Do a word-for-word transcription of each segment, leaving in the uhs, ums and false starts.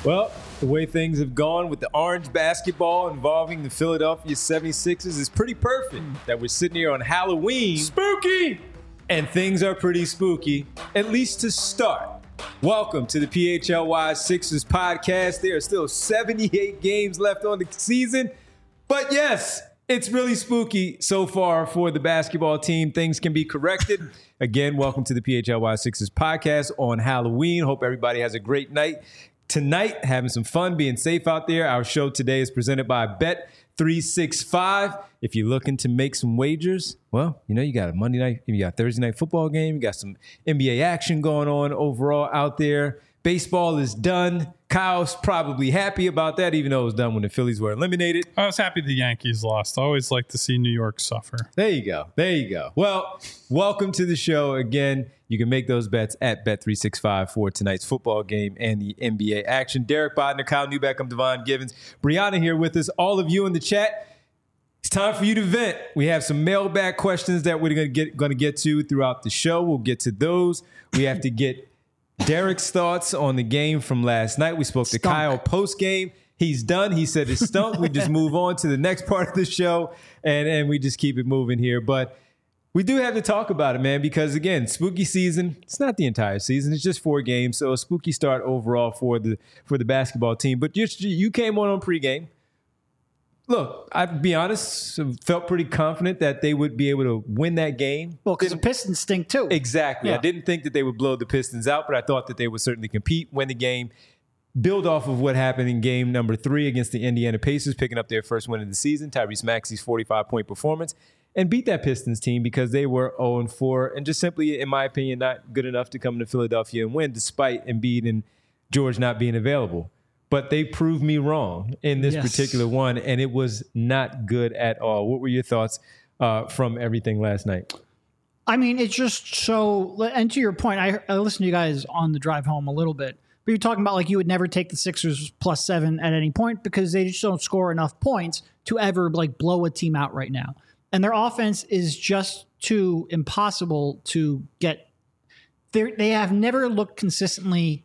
Well, the way things have gone with the orange basketball involving the Philadelphia seventy-sixers is pretty perfect that we're sitting here on Halloween. Spooky! And things are pretty spooky, at least to start. Welcome to the P H L Y Sixers podcast. There are still seventy-eight games left on the season. But yes, it's really spooky so far for the basketball team. Things can be corrected. Again, welcome to the P H L Y Sixers podcast on Halloween. Hope everybody has a great night tonight, having some fun, being safe out there. Our show today is presented by Bet three sixty-five. If you're looking to make some wagers, well, you know, you got a Monday night, you got a Thursday night football game, you got some N B A action going on overall out there. Baseball is done. Kyle's probably happy about that, even though it was done when the Phillies were eliminated. I was happy the Yankees lost. I always like to see New York suffer. There you go. There you go. Well, welcome to the show again. You can make those bets at Bet three sixty-five for tonight's football game and the N B A action. Derek Bodner, Kyle Newbeck, I'm Devon Givens. Brianna here with us. All of you in the chat. It's time for you to vent. We have some mailbag questions that we're going to get going to get to throughout the show. We'll get to those. We have to get Derek's thoughts on the game from last night. We spoke Stunk. to Kyle post-game. He's done. He said it's stunk. We just move on to the next part of the show, and, and we just keep it moving here. But we do have to talk about it, man, because, again, spooky season, it's not the entire season. It's just four games, so a spooky start overall for the for the basketball team. But you, you came on on pregame. Look, I'd be honest, felt pretty confident that they would be able to win that game. Well, because the Pistons stink too. Exactly. Yeah. I didn't think that they would blow the Pistons out, but I thought that they would certainly compete, win the game, build off of what happened in game number three against the Indiana Pacers, picking up their first win of the season, Tyrese Maxey's forty-five point performance, and beat that Pistons team because they were oh and four and just simply, in my opinion, not good enough to come to Philadelphia and win, despite Embiid and George not being available. But they proved me wrong in this Yes. particular one, and it was not good at all. What were your thoughts uh, from everything last night? I mean, it's just so, and to your point, I, I listened to you guys on the drive home a little bit, but you're talking about like you would never take the Sixers plus seven at any point because they just don't score enough points to ever like blow a team out right now. And their offense is just too impossible to get. They're, they have never looked consistently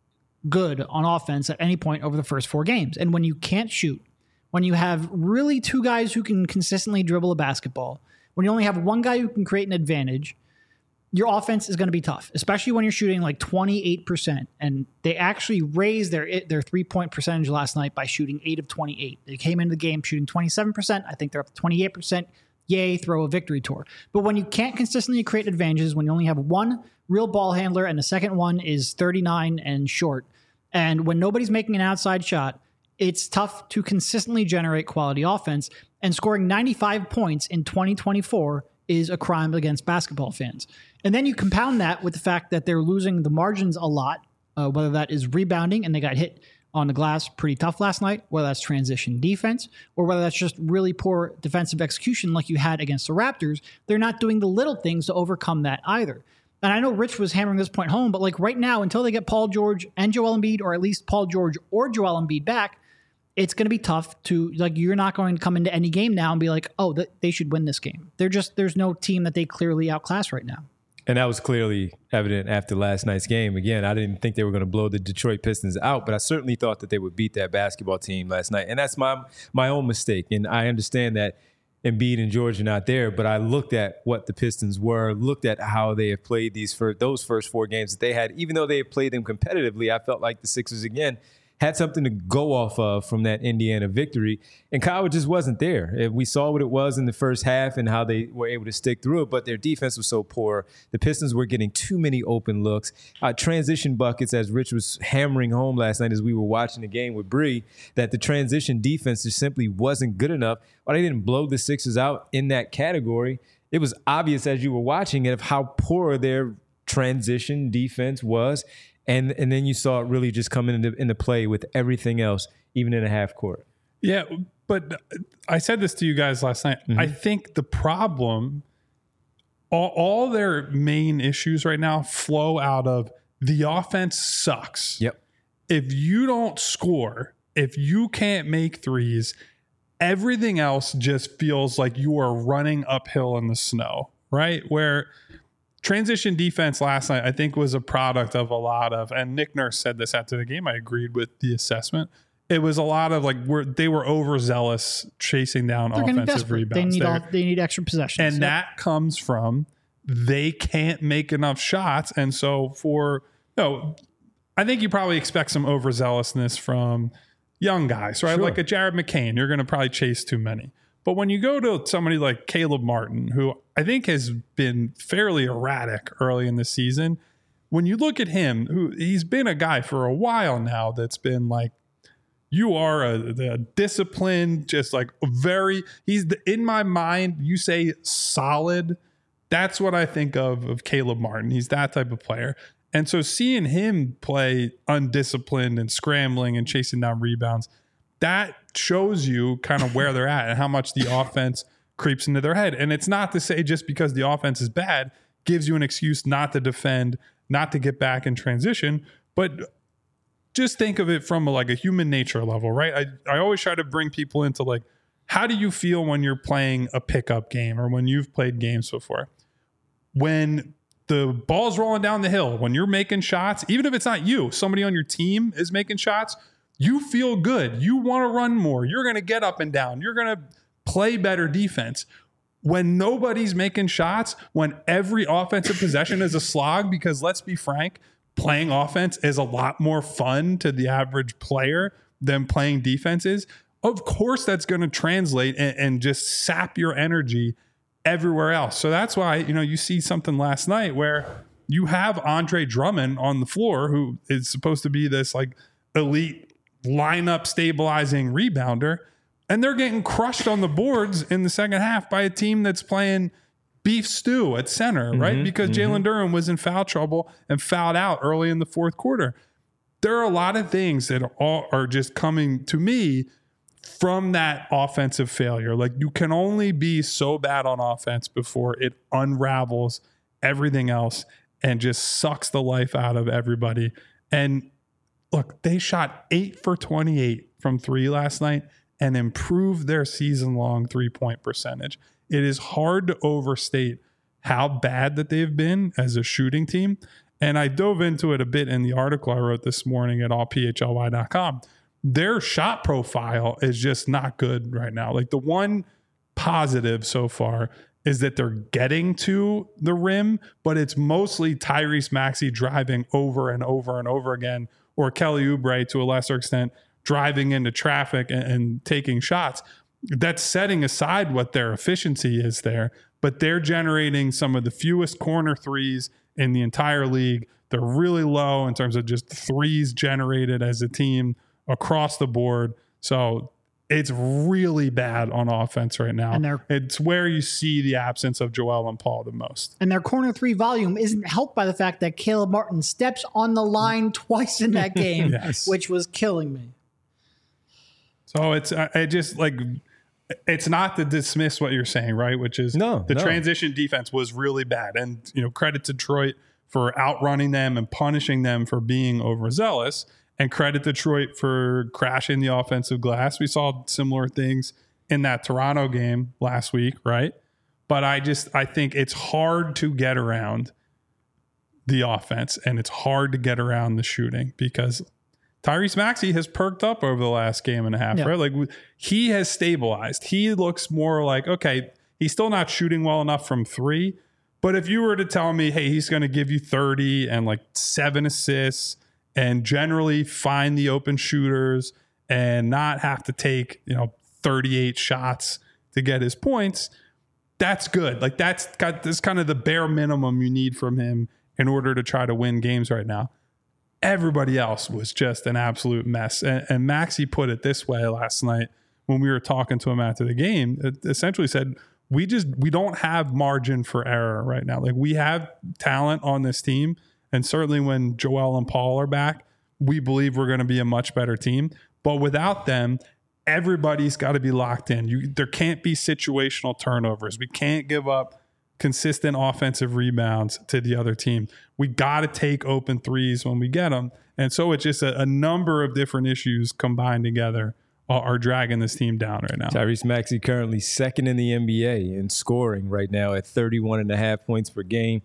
good on offense at any point over the first four games. And when you can't shoot, when you have really two guys who can consistently dribble a basketball, when you only have one guy who can create an advantage, your offense is going to be tough, especially when you're shooting like twenty-eight percent. And they actually raised their their three-point percentage last night by shooting eight of twenty-eight. They came into the game shooting twenty-seven percent. I think they're up to twenty-eight percent. Yay, throw a victory tour. But when you can't consistently create advantages, when you only have one real ball handler and the second one is thirty-nine and short, and when nobody's making an outside shot, it's tough to consistently generate quality offense. And scoring ninety-five points in twenty twenty-four is a crime against basketball fans. And then you compound that with the fact that they're losing the margins a lot, uh, whether that is rebounding, and they got hit on the glass pretty tough last night, whether that's transition defense, or whether that's just really poor defensive execution like you had against the Raptors. They're not doing the little things to overcome that either. And I know Rich was hammering this point home, but like right now, until they get Paul George and Joel Embiid, or at least Paul George or Joel Embiid back, it's going to be tough to, like, you're not going to come into any game now and be like, oh, th- they should win this game. They're just, there's no team that they clearly outclass right now. And that was clearly evident after last night's game. Again, I didn't think they were going to blow the Detroit Pistons out, but I certainly thought that they would beat that basketball team last night. And that's my my own mistake. And I understand that Embiid and George are not there, but I looked at what the Pistons were, looked at how they have played these first, those first four games that they had. Even though they had played them competitively, I felt like the Sixers, again, had something to go off of from that Indiana victory. And Kyle just wasn't there. We saw what it was in the first half and how they were able to stick through it, but their defense was so poor. The Pistons were getting too many open looks. Uh, transition buckets, as Rich was hammering home last night as we were watching the game with Bree, that the transition defense just simply wasn't good enough. Or they didn't blow the Sixers out in that category. It was obvious as you were watching it of how poor their transition defense was. And and then you saw it really just come into, into play with everything else, even in a half court. Yeah, but I said this to you guys last night. Mm-hmm. I think the problem, all, all their main issues right now flow out of the offense sucks. Yep. If you don't score, if you can't make threes, everything else just feels like you are running uphill in the snow, right? Where transition defense last night, I think, was a product of a lot of, and Nick Nurse said this after the game. I agreed with the assessment. It was a lot of like where they were overzealous chasing down They're offensive rebounds. They need all, they need extra possessions, and yep. that comes from they can't make enough shots. And so for no, I think you probably expect some overzealousness from young guys, right? Sure. Like a Jared McCain, you're going to probably chase too many. But when you go to somebody like Caleb Martin, who I think has been fairly erratic early in the season, when you look at him, who he's been a guy for a while now that's been like, you are a, a disciplined, just like very, he's the, in my mind, you say solid. That's what I think of of Caleb Martin. He's that type of player. And so seeing him play undisciplined and scrambling and chasing down rebounds, that shows you kind of where they're at and how much the offense creeps into their head. And it's not to say just because the offense is bad gives you an excuse not to defend, not to get back in transition, but just think of it from a, like a human nature level, right? I, I always try to bring people into like, how do you feel when you're playing a pickup game or when you've played games before? When the ball's rolling down the hill, when you're making shots, even if it's not you, somebody on your team is making shots, you feel good. You want to run more. You're going to get up and down. You're going to play better defense. When nobody's making shots, when every offensive possession is a slog, because let's be frank, playing offense is a lot more fun to the average player than playing defense is. Of course, that's going to translate and, and just sap your energy everywhere else. So that's why, you know, you see something last night where you have Andre Drummond on the floor, who is supposed to be this like elite lineup stabilizing rebounder, and they're getting crushed on the boards in the second half by a team that's playing beef stew at center, mm-hmm, right? Because mm-hmm. Jalen Durham was in foul trouble and fouled out early in the fourth quarter. There are a lot of things that are, are just coming to me from that offensive failure. Like, you can only be so bad on offense before it unravels everything else and just sucks the life out of everybody. And look, they shot eight for twenty-eight from three last night and improved their season-long three-point percentage. It is hard to overstate how bad that they've been as a shooting team. And I dove into it a bit in the article I wrote this morning at all p h l y dot com. Their shot profile is just not good right now. Like, the one positive so far is that they're getting to the rim, but it's mostly Tyrese Maxey driving over and over and over again, or Kelly Oubre to a lesser extent driving into traffic and, and taking shots. That's setting aside what their efficiency is there, but they're generating some of the fewest corner threes in the entire league. They're really low in terms of just threes generated as a team across the board. So it's really bad on offense right now. And it's where you see the absence of Joel and Paul the most. And their corner three volume isn't helped by the fact that Caleb Martin steps on the line twice in that game, yes. which was killing me. So it's, I just like, it's not to dismiss what you're saying, right? Which is no, the no. transition defense was really bad. And, you know, credit to Detroit for outrunning them and punishing them for being overzealous. And credit Detroit for crashing the offensive glass. We saw similar things in that Toronto game last week, right? But I just, I think it's hard to get around the offense and it's hard to get around the shooting because Tyrese Maxey has perked up over the last game and a half, yeah. right? Like, he has stabilized. He looks more like, okay, he's still not shooting well enough from three. But if you were to tell me, hey, he's going to give you thirty and like seven assists and generally find the open shooters and not have to take, you know, thirty-eight shots to get his points, that's good. Like, that's got this kind of the bare minimum you need from him in order to try to win games right now. Everybody else was just an absolute mess. And, and Maxey put it this way last night when we were talking to him after the game. It essentially said, we just, we don't have margin for error right now. Like, we have talent on this team. And certainly when Joel and Paul are back, we believe we're going to be a much better team. But without them, everybody's got to be locked in. You, there can't be situational turnovers. We can't give up consistent offensive rebounds to the other team. We got to take open threes when we get them. And so it's just a, a number of different issues combined together are, are dragging this team down right now. Tyrese Maxey currently second in the N B A in scoring right now at thirty-one and a half points per game.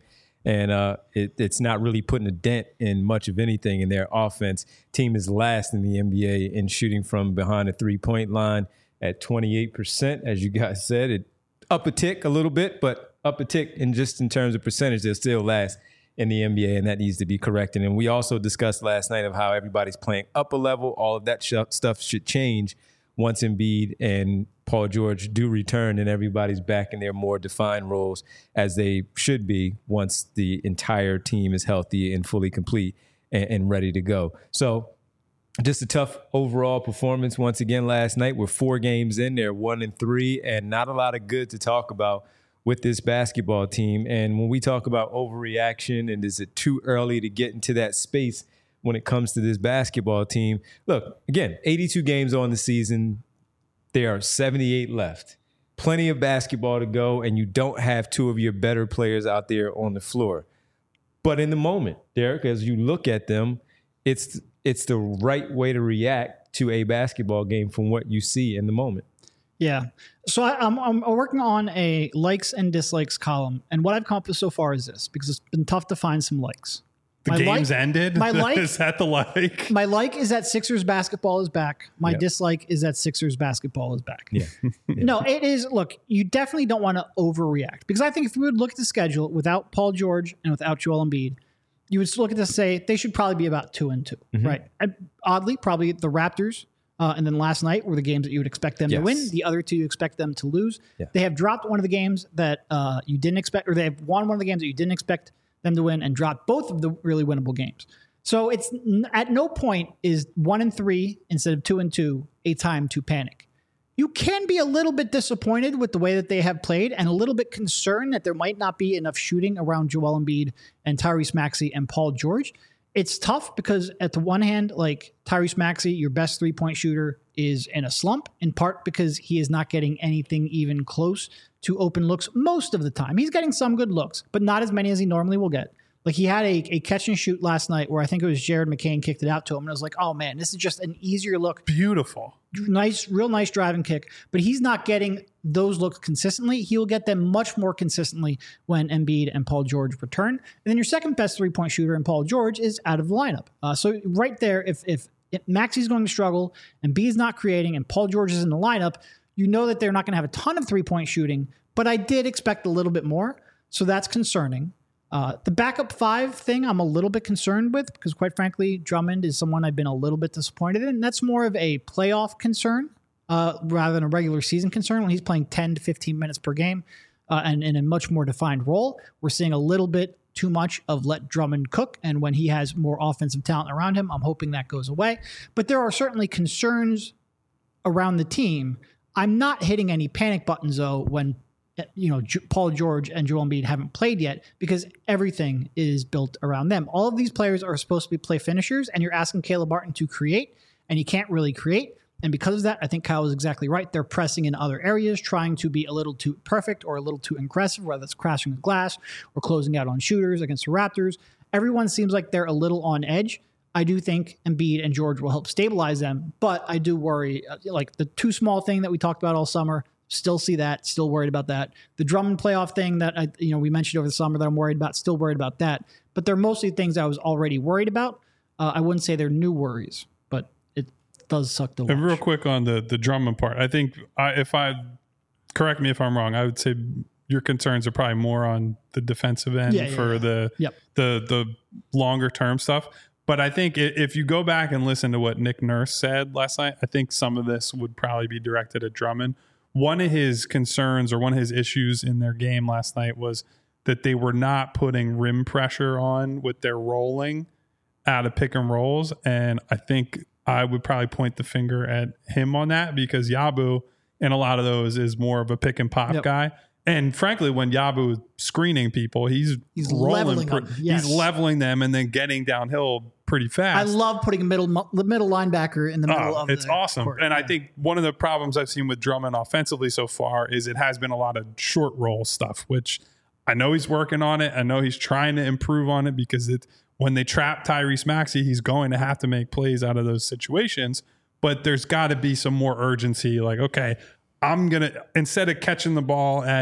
And uh, it, it's not really putting a dent in much of anything in their offense. Team is last in the N B A in shooting from behind the three-point line at twenty-eight percent. As you guys said, it up a tick a little bit, but up a tick in just in terms of percentage, they're still last in the N B A, and that needs to be corrected. And we also discussed last night of how everybody's playing up a level. All of that sh- stuff should change once Embiid and Paul George do return and everybody's back in their more defined roles as they should be once the entire team is healthy and fully complete and, and ready to go. So just a tough overall performance once again last night. We're four games in, they're one and three, and not a lot of good to talk about with this basketball team. And when we talk about overreaction and is it too early to get into that space when it comes to this basketball team, look, again, eighty-two games on the season. There are seventy-eight left. Plenty of basketball to go, and you don't have two of your better players out there on the floor. But in the moment, Derek, as you look at them, it's it's the right way to react to a basketball game from what you see in the moment. Yeah. So I, I'm, I'm working on a likes and dislikes column, and what I've come up with so far is this, because it's been tough to find some likes. The my game's like, ended? My like, is that the like? My like is that Sixers basketball is back. My yep. dislike is that Sixers basketball is back. Yeah. yeah. No, it is. Look, you definitely don't want to overreact, because I think if we would look at the schedule without Paul George and without Joel Embiid, you would look at this and say they should probably be about two and two, mm-hmm. right? And oddly, probably the Raptors uh, and then last night were the games that you would expect them yes. to win. The other two you expect them to lose. Yeah. They have dropped one of the games that uh, you didn't expect, or they have won one of the games that you didn't expect them to win, and dropped both of the really winnable games. So it's at no point is one and three instead of two and two a time to panic. You can be a little bit disappointed with the way that they have played and a little bit concerned that there might not be enough shooting around Joel Embiid and Tyrese Maxey and Paul George. It's tough because at the one hand, like Tyrese Maxey, your best three-point shooter, is in a slump, in part because he is not getting anything even close to open looks most of the time. He's getting some good looks, but not as many as he normally will get. Like he had a, a catch and shoot last night where I think it was Jared McCain kicked it out to him. And I was like, oh man, this is just an easier look. Beautiful. Nice, real nice driving kick. But he's not getting those looks consistently. He'll get them much more consistently when Embiid and Paul George return. And then your second best three-point shooter in Paul George is out of the lineup. Uh, so right there, if, if, if Maxey's going to struggle and Embiid's not creating and Paul George is in the lineup, you know that they're not going to have a ton of three-point shooting. But I did expect a little bit more. So that's concerning. Uh, the backup five thing I'm a little bit concerned with because, quite frankly, Drummond is someone I've been a little bit disappointed in. That's more of a playoff concern uh, rather than a regular season concern when he's playing ten to fifteen minutes per game uh, and in a much more defined role. We're seeing a little bit too much of let Drummond cook, and when he has more offensive talent around him, I'm hoping that goes away. But there are certainly concerns around the team. I'm not hitting any panic buttons, though, when you know, Paul George and Joel Embiid haven't played yet because everything is built around them. All of these players are supposed to be play finishers, and you're asking Caleb Martin to create, and he can't really create. And because of that, I think Kyle was exactly right. They're pressing in other areas, trying to be a little too perfect or a little too aggressive, whether it's crashing the glass or closing out on shooters against the Raptors. Everyone seems like they're a little on edge. I do think Embiid and George will help stabilize them, but I do worry, like the too small thing that we talked about all summer, still see that, still worried about that. The Drummond playoff thing that I, you know, we mentioned over the summer that I'm worried about, still worried about that. But they're mostly things I was already worried about. Uh, I wouldn't say they're new worries, but it does suck to watch. And real quick on the the Drummond part, I think I, if I correct me if I'm wrong, I would say your concerns are probably more on the defensive end yeah, yeah, for yeah. the yep. the the longer term stuff. But I think if you go back and listen to what Nick Nurse said last night, I think some of this would probably be directed at Drummond. One of his concerns or one of his issues in their game last night was that they were not putting rim pressure on with their rolling out of pick and rolls. And I think I would probably point the finger at him on that because Yabu in a lot of those is more of a pick and pop yep. guy. And frankly, when Yabu is screening people, he's, he's rolling, leveling them. Yes. He's leveling them and then getting downhill pretty fast. I love putting a middle middle linebacker in the middle oh, of it's the awesome. court. And yeah. I think one of the problems I've seen with Drummond offensively so far is it has been a lot of short roll stuff, which I know he's working on it. I know he's trying to improve on it because it, when they trap Tyrese Maxey, he's going to have to make plays out of those situations. But there's got to be some more urgency. Like, okay, I'm going to, instead of catching the ball at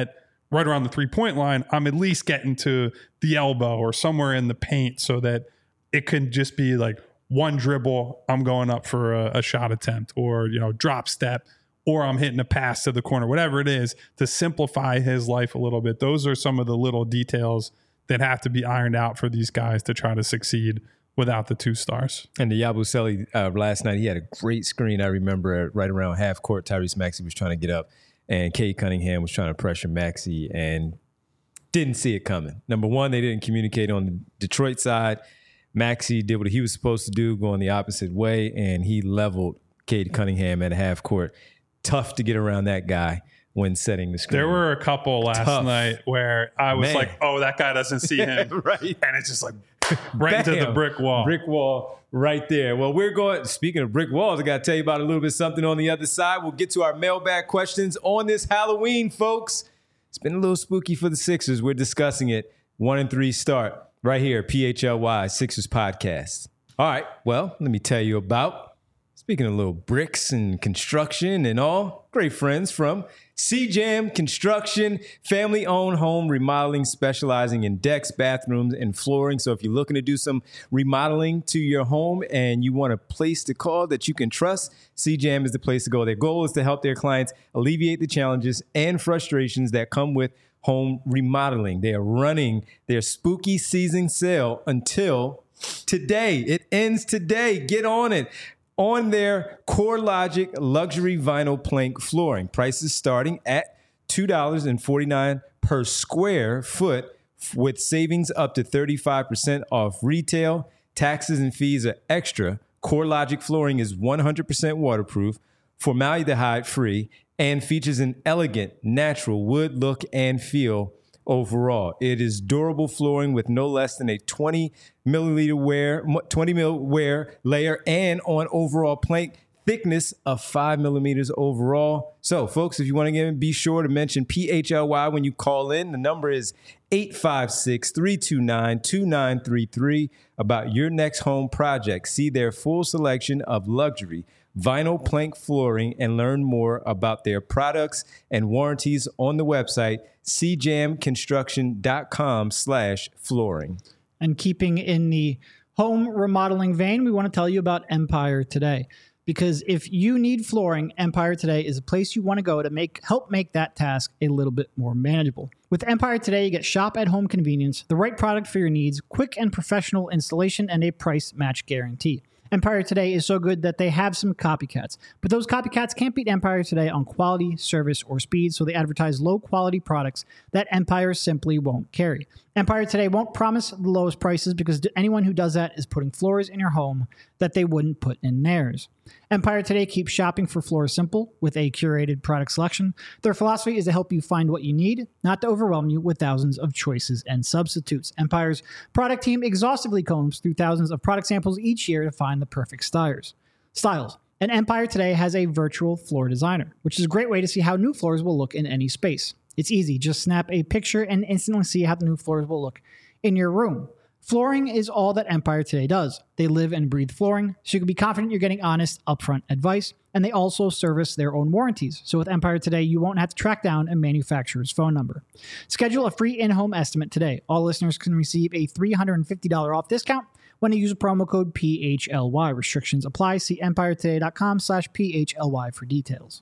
right around the three-point line, I'm at least getting to the elbow or somewhere in the paint so that it can just be like one dribble, I'm going up for a, a shot attempt, or, you know, drop step, or I'm hitting a pass to the corner, whatever it is, to simplify his life a little bit. Those are some of the little details that have to be ironed out for these guys to try to succeed without the two stars. And the Yabusele uh, last night, he had a great screen. I remember right around half court, Tyrese Maxey was trying to get up, and Cade Cunningham was trying to pressure Maxey and didn't see it coming. Number one, they didn't communicate on the Detroit side. Maxey did what he was supposed to do, going the opposite way, and he leveled Cade Cunningham at half court. Tough to get around that guy when setting the screen. There were a couple last Tough. night where I was Man. like, oh, that guy doesn't see him. Right. And it's just like right Bam. into the brick wall. Brick wall right there. Well, we're going, speaking of brick walls, I got to tell you about a little bit something on the other side. We'll get to our mailbag questions on this Halloween, folks. It's been a little spooky for the Sixers. We're discussing it. One and three start right here, P H L Y Sixers Podcast. All right, well, let me tell you about, speaking of little bricks and construction and all, great friends from C-Jam Construction, family-owned home remodeling specializing in decks, bathrooms, and flooring. So if you're looking to do some remodeling to your home and you want a place to call that you can trust, C-Jam is the place to go. Their goal is to help their clients alleviate the challenges and frustrations that come with home remodeling. They are running their spooky season sale until today. It ends today. Get on it. On their CoreLogic luxury vinyl plank flooring. Prices starting at two dollars and forty-nine cents per square foot, with savings up to thirty-five percent off retail. Taxes and fees are extra. CoreLogic flooring is one hundred percent waterproof, formaldehyde free, and features an elegant, natural wood look and feel overall. It is durable flooring with no less than a twenty milliliter wear, twenty mil wear layer, and on overall plank thickness of five millimeters overall. So, folks, if you want to get in, be sure to mention P H L Y when you call in. The number is eight five six, three two nine, two nine three three about your next home project. See their full selection of luxury vinyl plank flooring and learn more about their products and warranties on the website c jam construction dot com slash flooring. And keeping in the home remodeling vein, we want to tell you about Empire Today. Because if you need flooring, Empire Today is a place you want to go to make help make that task a little bit more manageable. With Empire Today, you get shop-at-home convenience, the right product for your needs, quick and professional installation, and a price match guarantee. Empire Today is so good that they have some copycats. But those copycats can't beat Empire Today on quality, service, or speed, so they advertise low-quality products that Empire simply won't carry. Empire Today won't promise the lowest prices because anyone who does that is putting floors in your home that they wouldn't put in theirs. Empire Today keeps shopping for floors simple with a curated product selection. Their philosophy is to help you find what you need, not to overwhelm you with thousands of choices and substitutes. Empire's product team exhaustively combs through thousands of product samples each year to find the perfect styles. Styles. And Empire Today has a virtual floor designer, which is a great way to see how new floors will look in any space. It's easy. Just snap a picture and instantly see how the new floors will look in your room. Flooring is all that Empire Today does. They live and breathe flooring, so you can be confident you're getting honest, upfront advice, and they also service their own warranties. So with Empire Today, you won't have to track down a manufacturer's phone number. Schedule a free in-home estimate today. All listeners can receive a three hundred fifty dollars off discount when you use a promo code P H L Y. Restrictions apply. See empire today dot com slash P H L Y for details.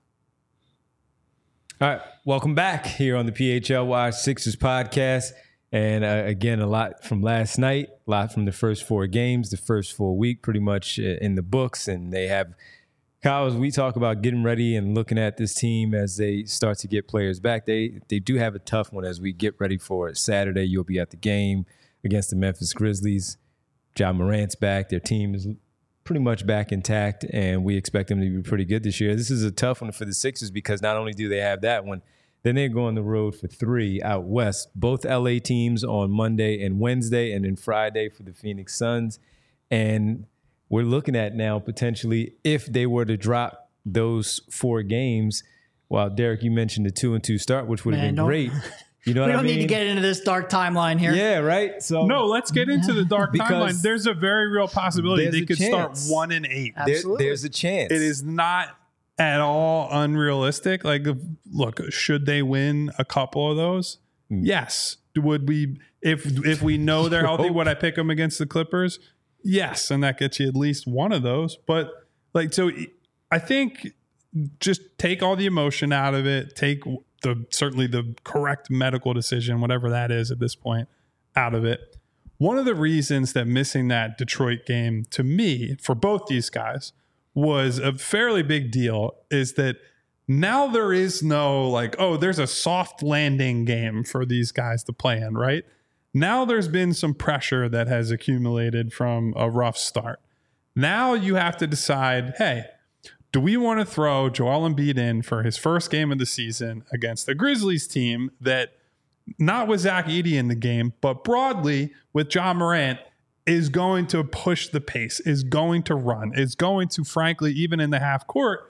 All right, welcome back here on the P H L Y Sixers podcast. And uh, again, a lot from last night, a lot from the first four games, the first full week pretty much in the books. And they have, Kyle, as we talk about getting ready and looking at this team as they start to get players back, they they do have a tough one as we get ready for it. Saturday, you'll be at the game against the Memphis Grizzlies. Ja Morant's back. Their team is pretty much back intact, and we expect them to be pretty good this year. This is a tough one for the Sixers because not only do they have that one, then they go on the road for three out west. Both L A teams on Monday and Wednesday, and then Friday for the Phoenix Suns. And we're looking at now potentially if they were to drop those four games. Well, Derek, you mentioned the two and two start, which would have been great. You know what we I don't mean? need to get into this dark timeline here. Yeah, right. So no, let's get into the dark timeline. There's a very real possibility they could chance. start one and eight. There, there's a chance. It is not at all unrealistic? Like, look, should they win a couple of those? Mm. Yes. Would we, if if we know they're healthy, would I pick them against the Clippers? Yes, and that gets you at least one of those. But like, so I think just take all the emotion out of it. Take the certainly the correct medical decision, whatever that is at this point, out of it. One of the reasons that missing that Detroit game to me for both these guys was a fairly big deal is that now there is no like, oh, there's a soft landing game for these guys to play in, right? Now there's been some pressure that has accumulated from a rough start. Now you have to decide, hey, do we want to throw Joel Embiid in for his first game of the season against the Grizzlies team that not with Zach Edey in the game, but broadly with Ja Morant is going to push the pace, is going to run, is going to, frankly, even in the half court,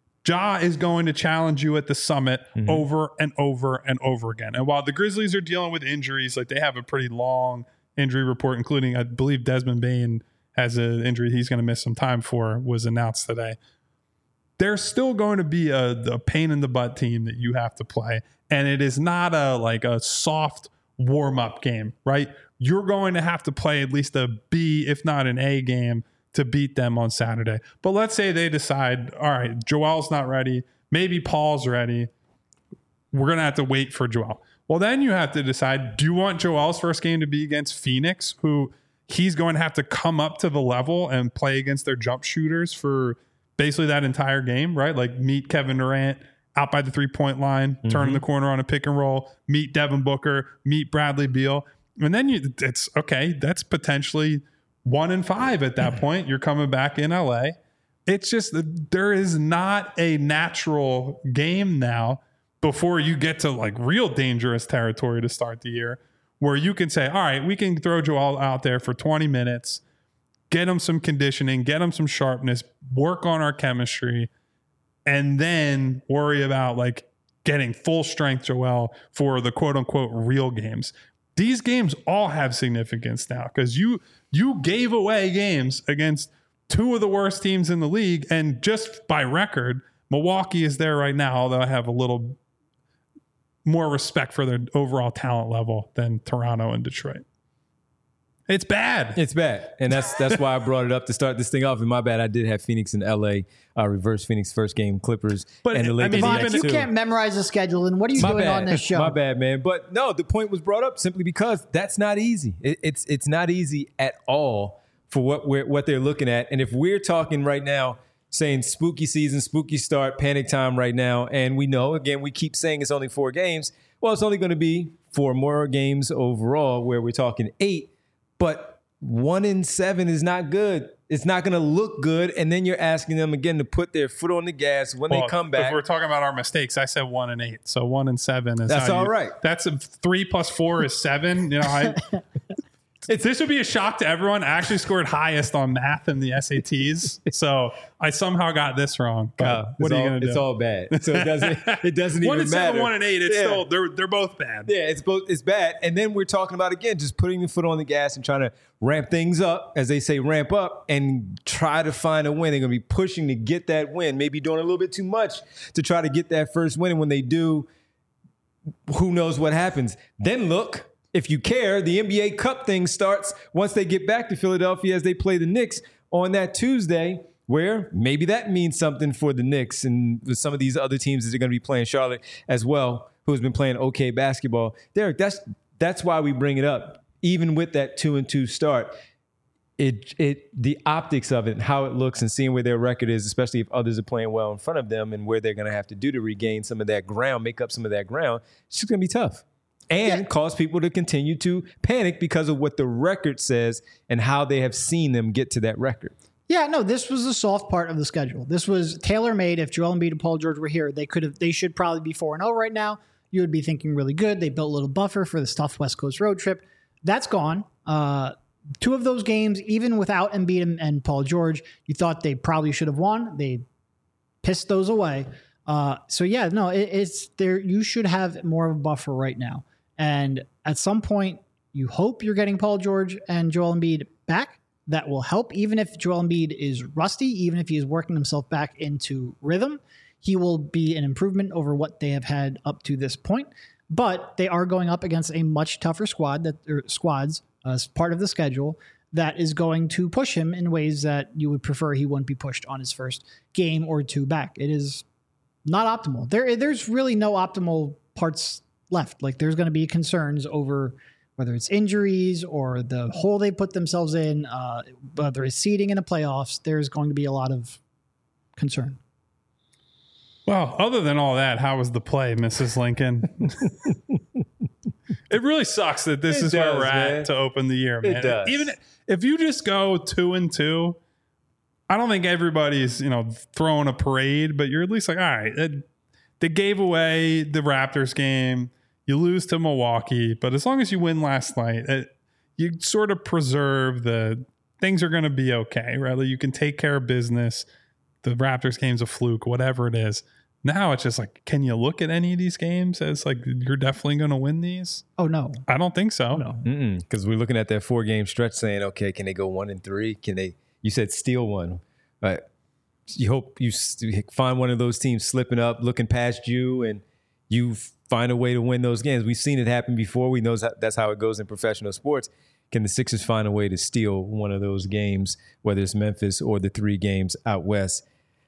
Ja is going to challenge you at the summit mm-hmm. over and over and over again. And while the Grizzlies are dealing with injuries, like they have a pretty long injury report, including, I believe, Desmond Bane has an injury he's going to miss some time for, was announced today. There's still going to be a, a pain in the butt team that you have to play. And it is not a like a soft warm-up game, right? You're going to have to play at least a B, if not an A game to beat them on Saturday. But let's say they decide, all right, Joel's not ready. Maybe Paul's ready. We're going to have to wait for Joel. Well, then you have to decide, do you want Joel's first game to be against Phoenix, who he's going to have to come up to the level and play against their jump shooters for basically that entire game, right? Like meet Kevin Durant out by the three-point line, mm-hmm. turn the corner on a pick and roll, meet Devin Booker, meet Bradley Beal. And then you, it's, okay, that's potentially one and five at that point. You're coming back in L A. It's just that there is not a natural game now before you get to like real dangerous territory to start the year where you can say, all right, we can throw Joel out there for twenty minutes, get him some conditioning, get him some sharpness, work on our chemistry, and then worry about like getting full strength Joel for the quote unquote real games. These games all have significance now because you you gave away games against two of the worst teams in the league. And just by record, Milwaukee is there right now, although I have a little more respect for their overall talent level than Toronto and Detroit. It's bad. It's bad. And that's that's why I brought it up to start this thing off. And my bad, I did have Phoenix and L A, uh, reverse Phoenix first game, Clippers. But and the Lakers. I mean, you can't memorize the schedule. And what are you my doing bad. on this show? My bad, man. But no, the point was brought up simply because that's not easy. It, it's it's not easy at all for what we're what they're looking at. And if we're talking right now, saying spooky season, spooky start, panic time right now, and we know, again, we keep saying it's only four games. Well, it's only going to be four more games overall where we're talking eight. But one in seven is not good. It's not going to look good. And then you're asking them again to put their foot on the gas when well, they come back. If we're talking about our mistakes, I said one and eight. So one and seven is that's all you, right. That's a three plus four is seven. You know, I It's, this would be a shock to everyone. I actually scored highest on math in the S A Ts, so I somehow got this wrong. Uh, what are you going to do? It's all bad. So it doesn't. It doesn't one even and matter. Seven, one and eight. It's yeah. still they're they're both bad. Yeah, it's both. It's bad. And then we're talking about again just putting the foot on the gas and trying to ramp things up, as they say, ramp up and try to find a win. They're going to be pushing to get that win. Maybe doing a little bit too much to try to get that first win. And when they do, who knows what happens? Then look. If you care, the N B A Cup thing starts once they get back to Philadelphia as they play the Knicks on that Tuesday, where maybe that means something for the Knicks and some of these other teams that are going to be playing Charlotte as well, who's been playing okay basketball. Derek, that's that's why we bring it up. Even with that two and two start, it it the optics of it and how it looks and seeing where their record is, especially if others are playing well in front of them and where they're going to have to do to regain some of that ground, make up some of that ground, it's just going to be tough. And yeah. cause people to continue to panic because of what the record says and how they have seen them get to that record. Yeah, no, this was the soft part of the schedule. This was tailor-made. If Joel Embiid and Paul George were here, they could have. They should probably be four and oh right now. You would be thinking really good. They built a little buffer for this tough West Coast road trip. That's gone. Uh, two of those games, even without Embiid and, and Paul George, you thought they probably should have won. They pissed those away. Uh, so yeah, no, it, it's there. You should have more of a buffer right now. And at some point, you hope you're getting Paul George and Joel Embiid back. that will help. Even if Joel Embiid is rusty, even if he is working himself back into rhythm, he will be an improvement over what they have had up to this point. But they are going up against a much tougher squad that or squads as part of the schedule that is going to push him in ways that you would prefer he wouldn't be pushed on his first game or two back. It is not optimal. There, there's really no optimal parts left. Like there's going to be concerns over whether it's injuries or the hole they put themselves in, uh, whether it's seeding in the playoffs. There's going to be a lot of concern. Well, other than all that, how was the play, Missus Lincoln? It really sucks that this It is does, where we're man. at to open the year, man. It does. Even if you just go two and two, I don't think everybody's, you know, throwing a parade, but you're at least like, all right, it, they gave away the Raptors game. You lose to Milwaukee, but as long as you win last night, it, you sort of preserve the things are going to be okay. Rather, you can take care of business. The Raptors game's a fluke, whatever it is. Now it's just like, can you look at any of these games as like you're definitely going to win these? Oh, no. I don't think so. No. Because we're looking at that four game stretch saying, okay, can they go one and three? Can they, you said steal one, but you hope you find one of those teams slipping up, looking past you, and you find a way to win those games. We've seen it happen before. We know that's how it goes in professional sports. Can the Sixers find a way to steal one of those games, whether it's Memphis or the three games out west?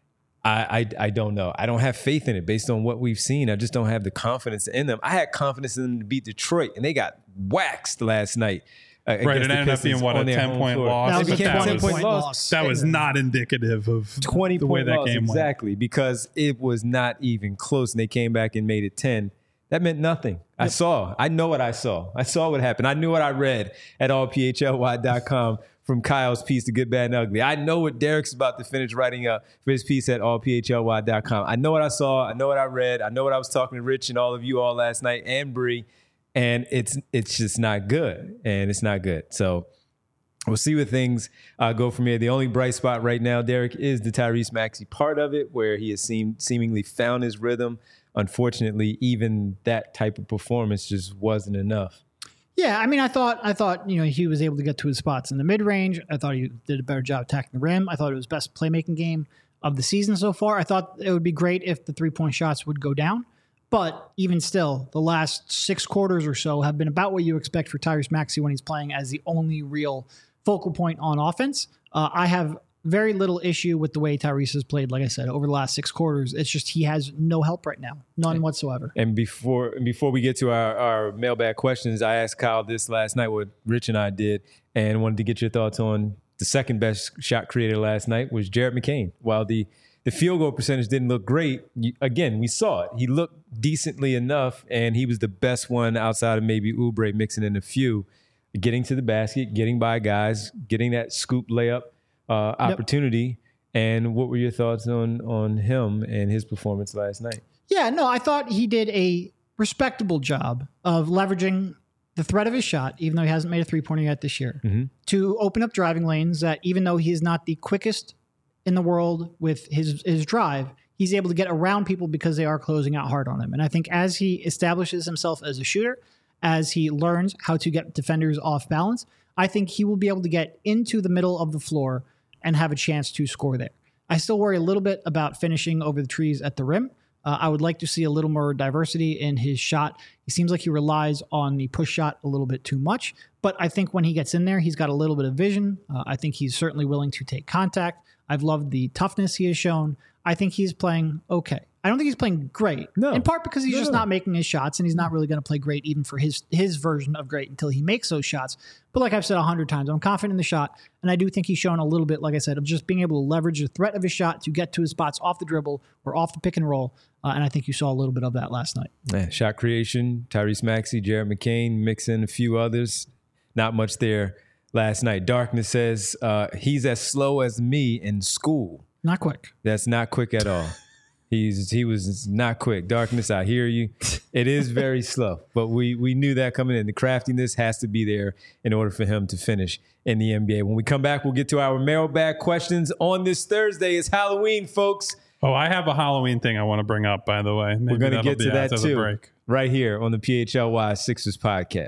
I, I I don't know. I don't have faith in it based on what we've seen. I just don't have the confidence in them. I had confidence in them to beat Detroit, and they got waxed last night. Uh, Right, it ended up being what, a ten-point loss? That was a But that ten-point was- loss. That was not indicative of twenty the way point that loss, game went. exactly, because it was not even close, and they came back and made it ten. That meant nothing. I saw. I know what I saw. I saw what happened. I knew what I read at all p h l y dot com from Kyle's piece, The Good, Bad, and Ugly. I know what Derek's about to finish writing up for his piece at all p h l y dot com. I know what I saw. I know what I read. I know what I was talking to Rich and all of you all last night and Bree, and it's it's just not good, and it's not good. So we'll see where things uh, go from here. The only bright spot right now, Derek, is the Tyrese Maxey part of it, where he has seemed seemingly found his rhythm. Unfortunately, even that type of performance just wasn't enough. Yeah, I mean, I thought, I thought, you know, he was able to get to his spots in the mid range. I thought he did a better job attacking the rim. I thought it was best playmaking game of the season so far. I thought it would be great if the three point shots would go down, but even still, the last six quarters or so have been about what you expect for Tyrese Maxey when he's playing as the only real focal point on offense. Uh, I have very little issue with the way Tyrese has played, like I said, over the last six quarters. It's just he has no help right now. None whatsoever. And before before we get to our, our mailbag questions, I asked Kyle this last night, what Rich and I did, and wanted to get your thoughts on the second best shot creator last night was Jared McCain. While the, the field goal percentage didn't look great, you, again, we saw it. He looked decently enough, and he was the best one outside of maybe Oubre mixing in a few, getting to the basket, getting by guys, getting that scoop layup. Uh, opportunity. Yep. And what were your thoughts on on him and his performance last night? Yeah, no, I thought he did a respectable job of leveraging the threat of his shot, even though he hasn't made a three-pointer yet this year, mm-hmm. to open up driving lanes that even though he is not the quickest in the world with his, his drive, he's able to get around people because they are closing out hard on him. And I think as he establishes himself as a shooter, as he learns how to get defenders off balance, I think he will be able to get into the middle of the floor and have a chance to score there. I still worry a little bit about finishing over the trees at the rim. Uh, I would like to see a little more diversity in his shot. He seems like he relies on the push shot a little bit too much, but I think when he gets in there, he's got a little bit of vision. Uh, I think he's certainly willing to take contact. I've loved the toughness he has shown. I think he's playing okay. I don't think he's playing great, no. in part because he's no. just not making his shots, and he's not really going to play great even for his his version of great until he makes those shots. But like I've said a hundred times, I'm confident in the shot, and I do think he's shown a little bit, like I said, of just being able to leverage the threat of his shot to get to his spots off the dribble or off the pick and roll, uh, and I think you saw a little bit of that last night. Man, shot creation, Tyrese Maxey, Jared McCain, mix in a few others. Not much there last night. Darkness says uh, he's as slow as me in school. Not quick. That's not quick at all. He's he was not quick. Darkness, I hear you. It is very slow, but we we knew that coming in. The craftiness has to be there in order for him to finish in the N B A. When we come back, we'll get to our mailbag questions on this Thursday. It's Halloween, folks. Oh, I have a Halloween thing I want to bring up, by the way. Maybe We're going to get to that too, right here on the P H L Y Sixers podcast.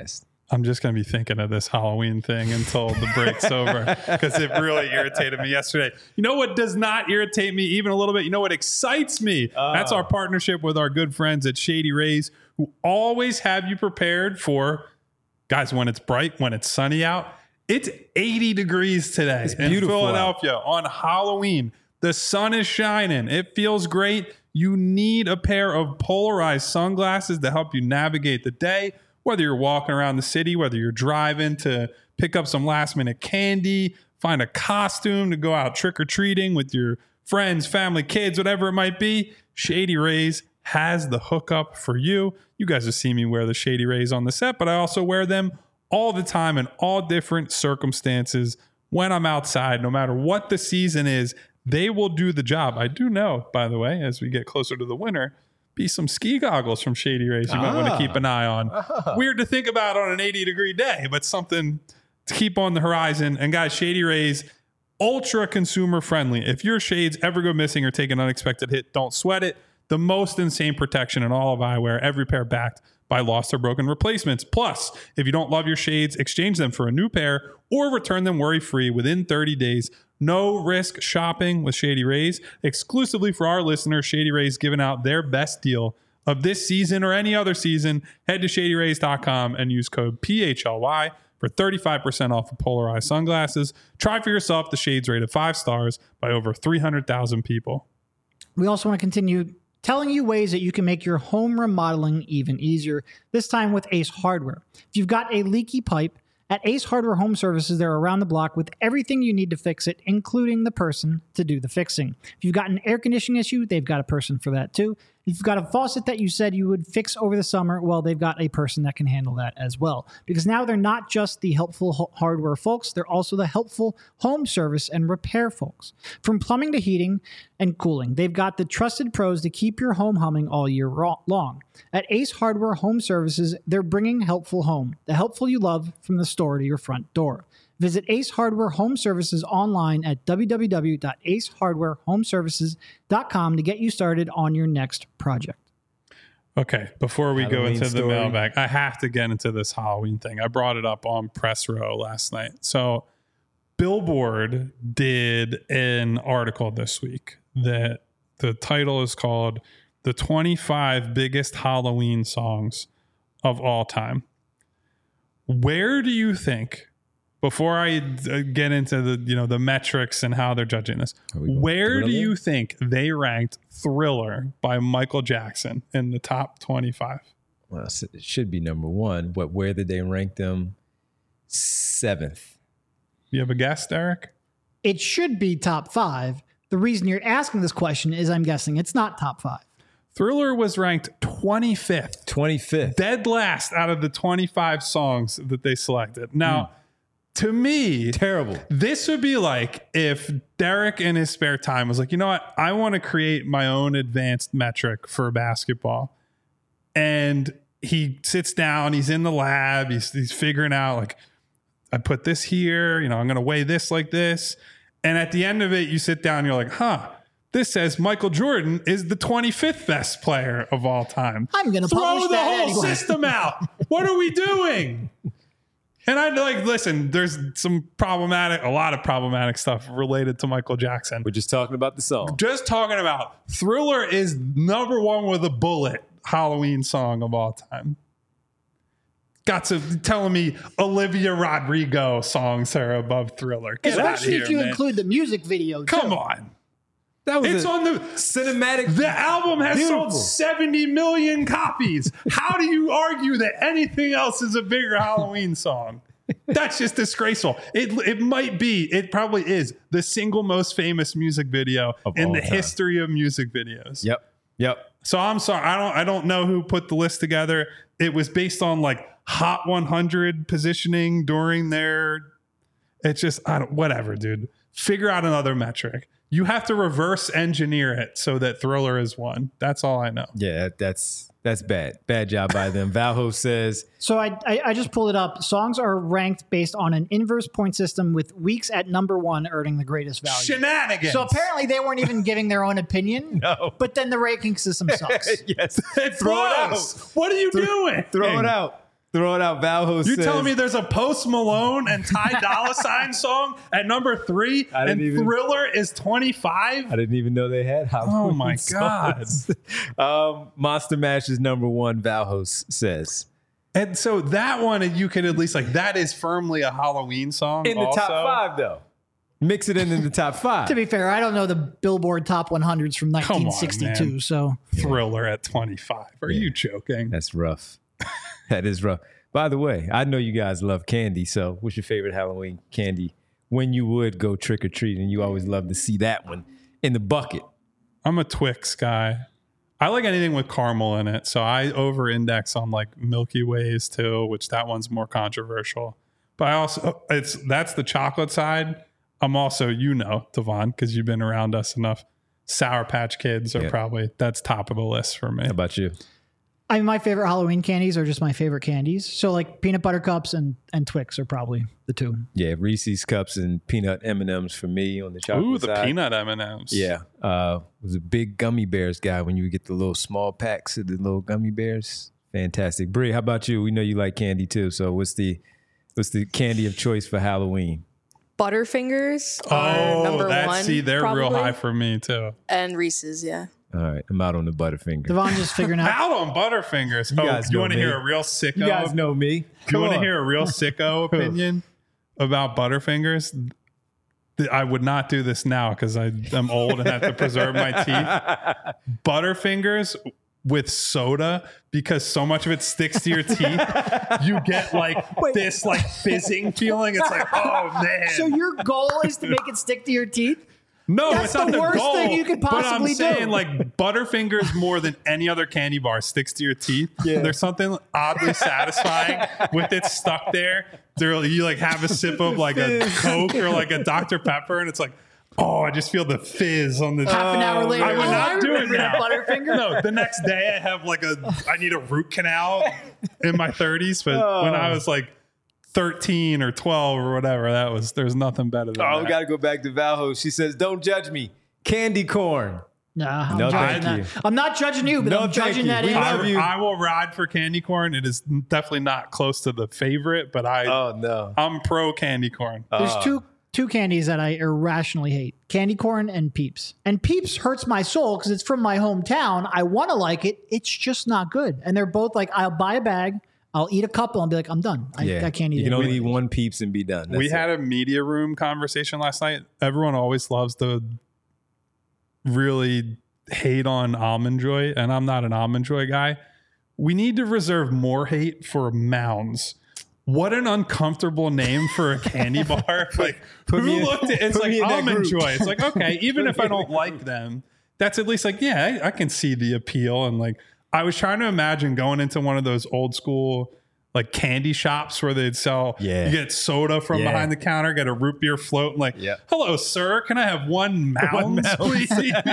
I'm just going to be thinking of this Halloween thing until the break's over because it really irritated me yesterday. You know what does not irritate me even a little bit? You know what excites me? Uh. That's our partnership with our good friends at Shady Rays, who always have you prepared for, guys, when it's bright, when it's sunny out. It's eighty degrees today it's in Philadelphia out. On Halloween. The sun is shining. It feels great. You need a pair of polarized sunglasses to help you navigate the day. Whether you're walking around the city, whether you're driving to pick up some last minute candy, find a costume to go out trick-or-treating with your friends, family, kids, whatever it might be, Shady Rays has the hookup for you. You guys have seen me wear the Shady Rays on the set, but I also wear them all the time in all different circumstances when I'm outside, no matter what the season is, they will do the job. I do know, by the way, as we get closer to the winter, be some ski goggles from Shady Rays you ah. might want to keep an eye on. Ah. Weird to think about on an eighty degree day, but something to keep on the horizon. And guys, Shady Rays, ultra consumer friendly. If your shades ever go missing or take an unexpected hit, don't sweat it. The most insane protection in all of eyewear, every pair backed by lost or broken replacements. Plus, if you don't love your shades, exchange them for a new pair or return them worry-free within thirty days. No risk shopping with Shady Rays. Exclusively for our listeners, Shady Rays giving out their best deal of this season or any other season. Head to shady rays dot com and use code P H L Y for thirty-five percent off of polarized sunglasses. Try for yourself. The shades rated five stars by over three hundred thousand people. We also want to continue telling you ways that you can make your home remodeling even easier, this time with Ace Hardware. If you've got a leaky pipe, at Ace Hardware Home Services, they're around the block with everything you need to fix it, including the person to do the fixing. If you've got an air conditioning issue, they've got a person for that too. If you've got a faucet that you said you would fix over the summer, well, they've got a person that can handle that as well. Because now they're not just the helpful ho- hardware folks, they're also the helpful home service and repair folks. From plumbing to heating and cooling, they've got the trusted pros to keep your home humming all year ro- long. At Ace Hardware Home Services, they're bringing helpful home, the helpful you love, from the store to your front door. Visit Ace Hardware Home Services online at w w w dot ace hardware home services dot com to get you started on your next project. Okay, before we Halloween go into story. the mailbag, I have to get into this Halloween thing. I brought it up on Press Row last night. So Billboard did an article this week that the title is called The twenty-five Biggest Halloween Songs of All Time. Where do you think, before I get into the you know the metrics and how they're judging this, where do you think they ranked Thriller by Michael Jackson in the top twenty-five? Well, it should be number one, but where did they rank them? Seventh. You have a guess, Derek? It should be top five. The reason you're asking this question is I'm guessing it's not top five. Thriller was ranked twenty-fifth. twenty-fifth. Dead last out of the twenty-five songs that they selected. Now, mm. to me, terrible. This would be like if Derek in his spare time was like, you know what? I want to create my own advanced metric for basketball. And he sits down, he's in the lab, he's, he's figuring out like, I put this here, you know, I'm going to weigh this like this. And at the end of it, you sit down and you're like, huh, this says Michael Jordan is the twenty-fifth best player of all time. I'm going to publish Throw the that whole anyway. system out. What are we doing? And I'd like, listen, there's some problematic, a lot of problematic stuff related to Michael Jackson. We're just talking about the song. Just talking about Thriller is number one with a bullet Halloween song of all time. Got to telling me Olivia Rodrigo songs are above Thriller. Get out of Especially here, if you man. include the music video, too. Come on. That was it's on the cinematic. The album has Beautiful. sold seventy million copies. How do you argue that anything else is a bigger Halloween song? That's just disgraceful. It it might be, it probably is the single most famous music video of in the time. history of music videos. Yep. Yep. So I'm sorry. I don't I don't know who put the list together. It was based on like Hot one hundred positioning during their, it's just, I don't, whatever, dude. Figure out another metric. You have to reverse engineer it so that Thriller is one. That's all I know. Yeah, that's that's bad. Bad job by them. Valho says. So I, I I just pulled it up. Songs are ranked based on an inverse point system with weeks at number one earning the greatest value. Shenanigans. So apparently they weren't even giving their own opinion. No. But then the ranking system sucks. Yes. It Throw it out. What are you Throw, doing? Throw it out. throwing out Valho. You says, telling me there's a Post Malone and Ty Dolla $ign song at number three, and even, Thriller is twenty-five? I didn't even know they had Halloween. Oh my god! um, Monster Mash is number one. Valhos says, and so that one, you could at least like that is firmly a Halloween song in the also. top five though. Mix it in in the top five. To be fair, I don't know the Billboard Top one hundreds from nineteen sixty-two. On, so Thriller at twenty-five. Are yeah. you joking? That's rough. That is rough. By the way, I know you guys love candy. So what's your favorite Halloween candy? When you would go trick or treat, and you always love to see that one in the bucket. I'm a Twix guy. I like anything with caramel in it. So I over index on like Milky Ways too, which that one's more controversial. But I also, it's that's the chocolate side. I'm also, you know, Devon, because you've been around us enough. Sour Patch Kids are yeah. probably, that's top of the list for me. How about you? I mean, my favorite Halloween candies are just my favorite candies. So like peanut butter cups and, and Twix are probably the two. Yeah, Reese's Cups and peanut M and M's for me on the chocolate Ooh, the side. peanut M and M's. Yeah. Uh, was a big gummy bears guy when you get the little small packs of the little gummy bears. Fantastic. Bree, how about you? We know you like candy too. So what's the what's the candy of choice for Halloween? Butterfingers oh, are number that's, one. See, they're probably. real high for me too. And Reese's, yeah. All right, I'm out on the Butterfinger. Devon just figuring out. Out on Butterfingers. You oh, guys you want to me. hear a real sicko? You guys know me. You want to hear a real sicko opinion about Butterfingers? I would not do this now because I'm old and have to preserve my teeth. Butterfingers with soda, because so much of it sticks to your teeth, you get like Wait. this like fizzing feeling. It's like, oh man. So your goal is to make it stick to your teeth? No, That's it's not the, the worst goal, thing you could possibly but I'm saying do. like Butterfingers more than any other candy bar sticks to your teeth. Yeah. There's something oddly satisfying with it stuck there. There, you like have a sip of like a Coke or like a Doctor Pepper, and it's like, oh, I just feel the fizz on the. Half an hour later, I would oh, not I do it now. Butterfinger. No, the next day I have like a. I need a root canal in my thirties, but oh. when I was like thirteen or twelve or whatever, that was there's nothing better than oh, that. we got to go back to Valho. She says, "Don't judge me." Candy corn. Nah, I'm no, judging thank that. you. I'm not judging you, but No, I'm thank judging you. that We answer. love you. I, I will ride for candy corn. It is definitely not close to the favorite, but I Oh no, I'm pro candy corn. There's Uh. two two candies that I irrationally hate: candy corn and Peeps. And Peeps hurts my soul because it's from my hometown. I want to like it. It's just not good. And they're both like, I'll buy a bag, I'll eat a couple, and be like, I'm done. I, yeah. I can't eat You it. can only eat one Peeps and be done. That's we it. had a media room conversation last night. Everyone always loves to really hate on Almond Joy, and I'm not an Almond Joy guy. We need to reserve more hate for Mounds. What an uncomfortable name for a candy bar. Like, put who me in- looked at it's put me like in that Almond group. Joy. It's like, okay, even if I don't like them, that's at least like, yeah, I, I can see the appeal. And like, I was trying to imagine going into one of those old school like candy shops where they'd sell, Yeah. you get soda from Yeah. behind the counter, get a root beer float, and like, Yeah. hello, sir, can I have one Mounds, Mounds. please?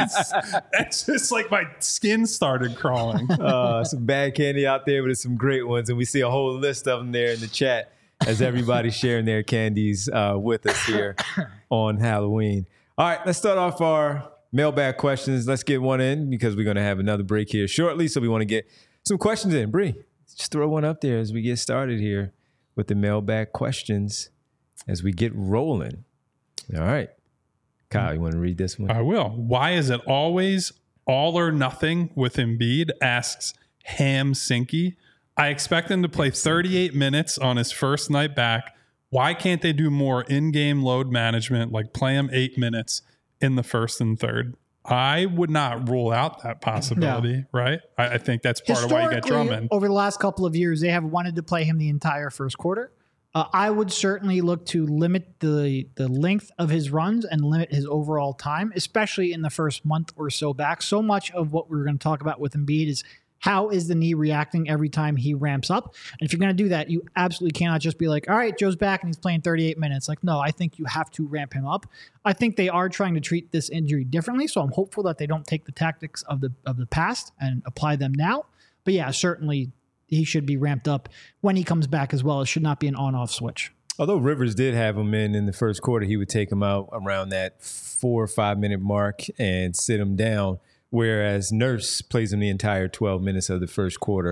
It's just like my skin started crawling. uh, some bad candy out there, but there's some great ones, and we see a whole list of them there in the chat as everybody's sharing their candies uh, with us here on Halloween. All right, let's start off our mailbag questions. Let's get one in because we're going to have another break here shortly, so we want to get some questions in. Bree, just throw one up there as we get started here with the mailbag questions as we get rolling. All right. Kyle, you want to read this one? I will. Why is it always all or nothing with Embiid? Asks Ham Sinky. I expect him to play thirty-eight minutes on his first night back. Why can't they do more in-game load management, like play him eight minutes in the first and third? I would not rule out that possibility, No. right? I, I think that's part of why you get Drummond. Over the last couple of years, they have wanted to play him the entire first quarter. Uh, I would certainly look to limit the the length of his runs and limit his overall time, especially in the first month or so back. So much of what we're going to talk about with Embiid is how is the knee reacting every time he ramps up? And if you're going to do that, you absolutely cannot just be like, all right, Joe's back and he's playing thirty-eight minutes. Like, no, I think you have to ramp him up. I think they are trying to treat this injury differently, so I'm hopeful that they don't take the tactics of the of the past and apply them now. But yeah, certainly he should be ramped up when he comes back as well. It should not be an on-off switch. Although Rivers did have him in in the first quarter, he would take him out around that four or five minute mark and sit him down. Whereas Nurse plays him the entire twelve minutes of the first quarter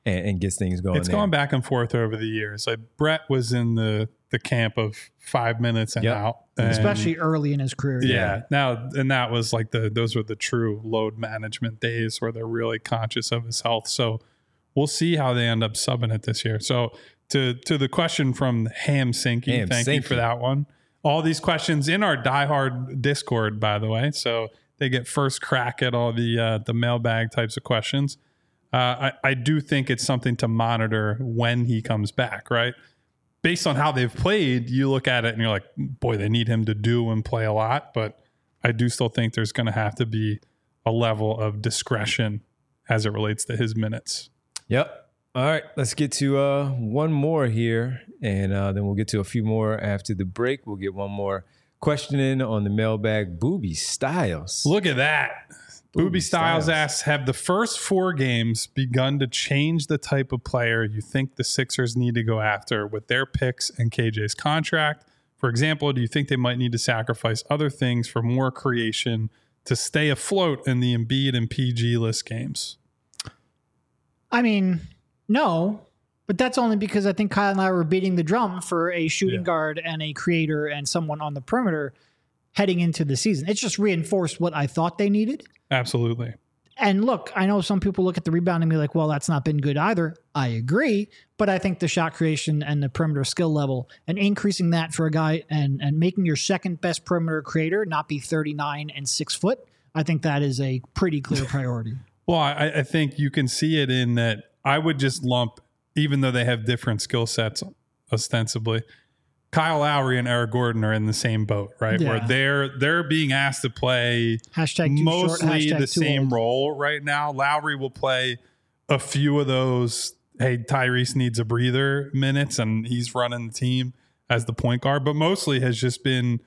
and, and gets things going. It's there. gone back and forth over the years. Like Brett was in the the camp of five minutes and Yep. out, and especially early in his career. yeah. Now and that was like the those were the true load management days where they're really conscious of his health. So we'll see how they end up subbing it this year. So to to the question from Ham Sinky, Ham thank you Sinky. for that one. All these questions in our diehard Discord, by the way, so they get first crack at all the uh, the mailbag types of questions. Uh, I, I do think it's something to monitor when he comes back, right? Based on how they've played, you look at it and you're like, boy, they need him to do and play a lot. But I do still think there's going to have to be a level of discretion as it relates to his minutes. Yep. All right, let's get to uh, one more here, and uh, then we'll get to a few more after the break. We'll get one more question in on the mailbag. Booby Styles. Look at that. Booby Booby Styles, Styles. asks, have the first four games begun to change the type of player you think the Sixers need to go after with their picks and K J's contract? For example, do you think they might need to sacrifice other things for more creation to stay afloat in the Embiid and P G list games? I mean, no, but that's only because I think Kyle and I were beating the drum for a shooting Yeah. guard and a creator and someone on the perimeter heading into the season. It's just reinforced what I thought they needed. Absolutely. And look, I know some people look at the rebound and be like, well, that's not been good either. I agree. But I think the shot creation and the perimeter skill level and increasing that for a guy and, and making your second best perimeter creator not be thirty-nine and six foot, I think that is a pretty clear priority. Well, I, I think you can see it in that I would just lump, even though they have different skill sets ostensibly, Kyle Lowry and Eric Gordon are in the same boat, right? Yeah. Where they're they're being asked to play Hashtag too mostly short, hashtag the too same old. role right now. Lowry will play a few of those, hey, Tyrese needs a breather minutes, and he's running the team as the point guard, but mostly has just been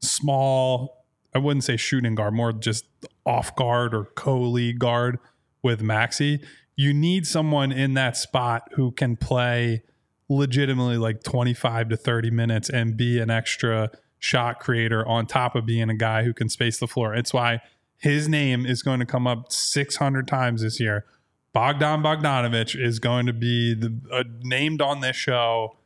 small, I wouldn't say shooting guard, more just off guard or co-lead guard with Maxey. You need someone in that spot who can play legitimately like twenty-five to thirty minutes and be an extra shot creator on top of being a guy who can space the floor. It's why his name is going to come up six hundred times this year. Bogdan Bogdanovic is going to be the, uh, named on this show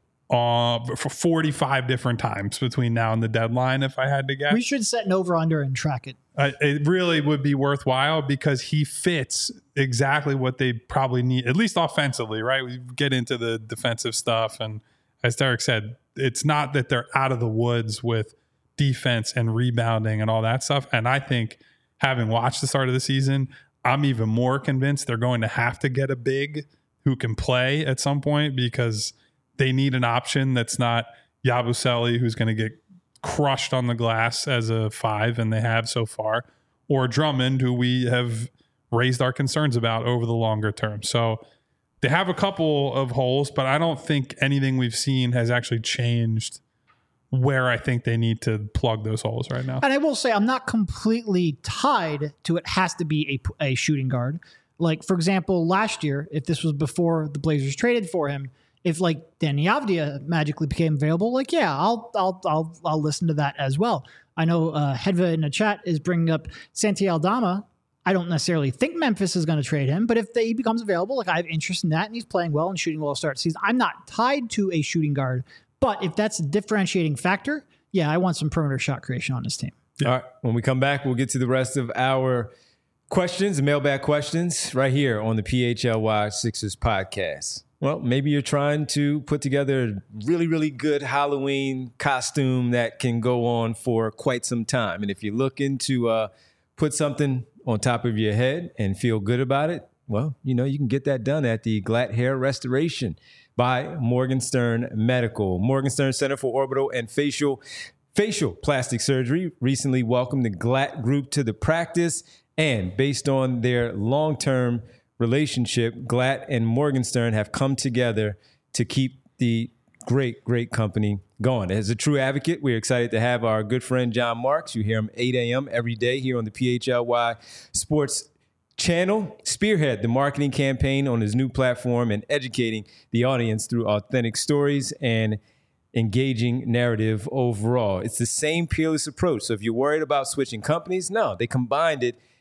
uh, for forty-five different times between now and the deadline, if I had to guess. We should set an over under and track it. Uh, it really would be worthwhile because he fits exactly what they probably need, at least offensively, right? We get into the defensive stuff. And as Derek said, it's not that they're out of the woods with defense and rebounding and all that stuff. And I think having watched the start of the season, I'm even more convinced they're going to have to get a big who can play at some point because they need an option that's not Yabusele, who's going to get crushed on the glass as a five, and they have so far, or Drummond, who we have raised our concerns about over the longer term. So they have a couple of holes, but I don't think anything we've seen has actually changed where I think they need to plug those holes right now. And I will say, I'm not completely tied to it has to be a, a shooting guard. Like, for example, last year, if this was before the Blazers traded for him, if like Danny Avdia magically became available, like, yeah, I'll I'll I'll I'll listen to that as well. I know uh, Hedva in the chat is bringing up Santi Aldama. I don't necessarily think Memphis is going to trade him, but if they, he becomes available, like I have interest in that, and he's playing well and shooting well to start the season. I'm not tied to a shooting guard, but if that's a differentiating factor, yeah, I want some perimeter shot creation on this team. All right. When we come back, we'll get to the rest of our questions, mailbag questions, right here on the P H L Y Sixers podcast. Well, maybe you're trying to put together a really, really good Halloween costume that can go on for quite some time. And if you're looking to uh, put something on top of your head and feel good about it, well, you know, you can get that done at the Glatt Hair Restoration by Morgenstern Medical. Morgenstern Center for Orbital and Facial Facial Plastic Surgery recently welcomed the Glatt Group to the practice. And based on their long-term relationship, Glatt and Morgenstern have come together to keep the great, great company going. As a true advocate, we're excited to have our good friend John Marks. You hear him eight a.m. every day here on the P H L Y Sports Channel, spearhead the marketing campaign on his new platform and educating the audience through authentic stories and engaging narrative overall. It's the same peerless approach. So if you're worried about switching companies, no, they combined it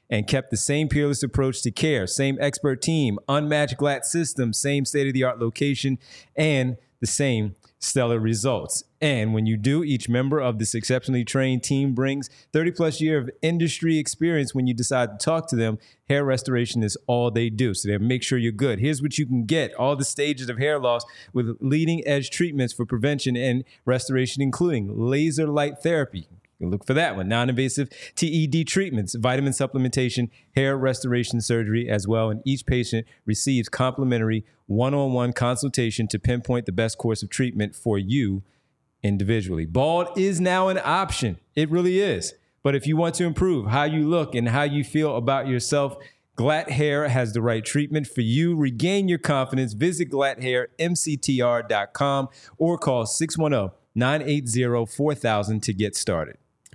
and kept the same peerless approach to care, same expert team, unmatched Glatt system, same state-of-the-art location, and the same stellar results. And when you do, each member of this exceptionally trained team brings thirty plus year of industry experience. When you decide to talk to them, hair restoration is all they do. So they make sure you're good. Here's what you can get: all the stages of hair loss with leading edge treatments for prevention and restoration, including laser light therapy. You can look for that one. Non-invasive T E D treatments, vitamin supplementation, hair restoration surgery as well. And each patient receives complimentary one-on-one consultation to pinpoint the best course of treatment for you individually. Bald is now an option. It really is. But if you want to improve how you look and how you feel about yourself, Glatt Hair has the right treatment for you. Regain your confidence. Visit glatt hair m c t r dot com or call six one zero, nine eight zero, four thousand to get started.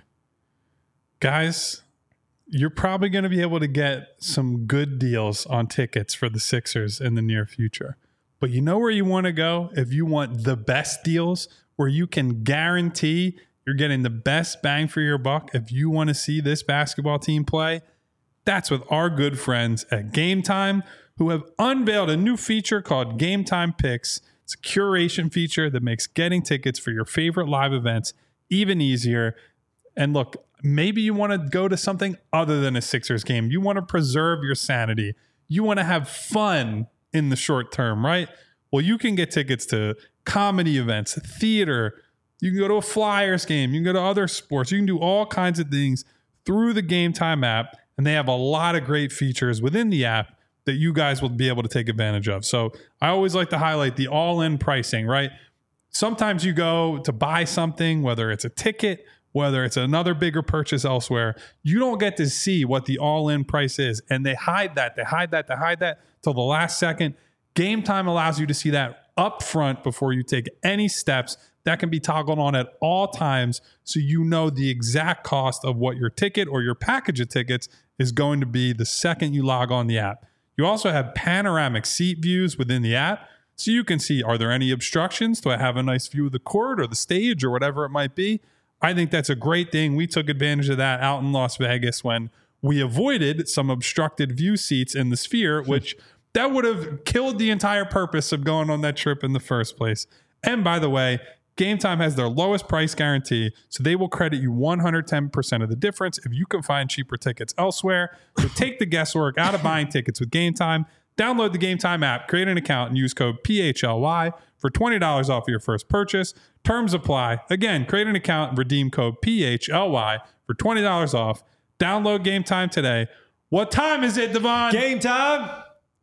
Guys, you're probably going to be able to get some good deals on tickets for the Sixers in the near future. But you know where you want to go if you want the best deals, where you can guarantee you're getting the best bang for your buck if you want to see this basketball team play? That's with our good friends at Game Time, who have unveiled a new feature called Game Time Picks. It's a curation feature that makes getting tickets for your favorite live events even easier. And look, maybe you want to go to something other than a Sixers game. You want to preserve your sanity. You want to have fun in the short term, right? Well, you can get tickets to comedy events, theater. You can go to a Flyers game. You can go to other sports. You can do all kinds of things through the Game Time app. And they have a lot of great features within the app that you guys will be able to take advantage of. So I always like to highlight the all-in pricing, right? Sometimes you go to buy something, whether it's a ticket, whether it's another bigger purchase elsewhere, you don't get to see what the all-in price is. And they hide that, they hide that, they hide that till the last second. Game Time allows you to see that up front before you take any steps. That can be toggled on at all times, so you know the exact cost of what your ticket or your package of tickets is going to be the second you log on the app. You also have panoramic seat views within the app, so you can see, are there any obstructions? Do I have a nice view of the court or the stage or whatever it might be? I think that's a great thing. We took advantage of that out in Las Vegas when we avoided some obstructed view seats in the Sphere, which that would have killed the entire purpose of going on that trip in the first place. And by the way, Game Time has their lowest price guarantee, so they will credit you one hundred ten percent of the difference if you can find cheaper tickets elsewhere. So take the guesswork out of buying tickets with Game Time. Download the Game Time app, create an account, and use code P H L Y for twenty dollars off your first purchase. Terms apply. Again, create an account and redeem code P H L Y for twenty dollars off. Download Game Time today. What time is it, Devon? Game time.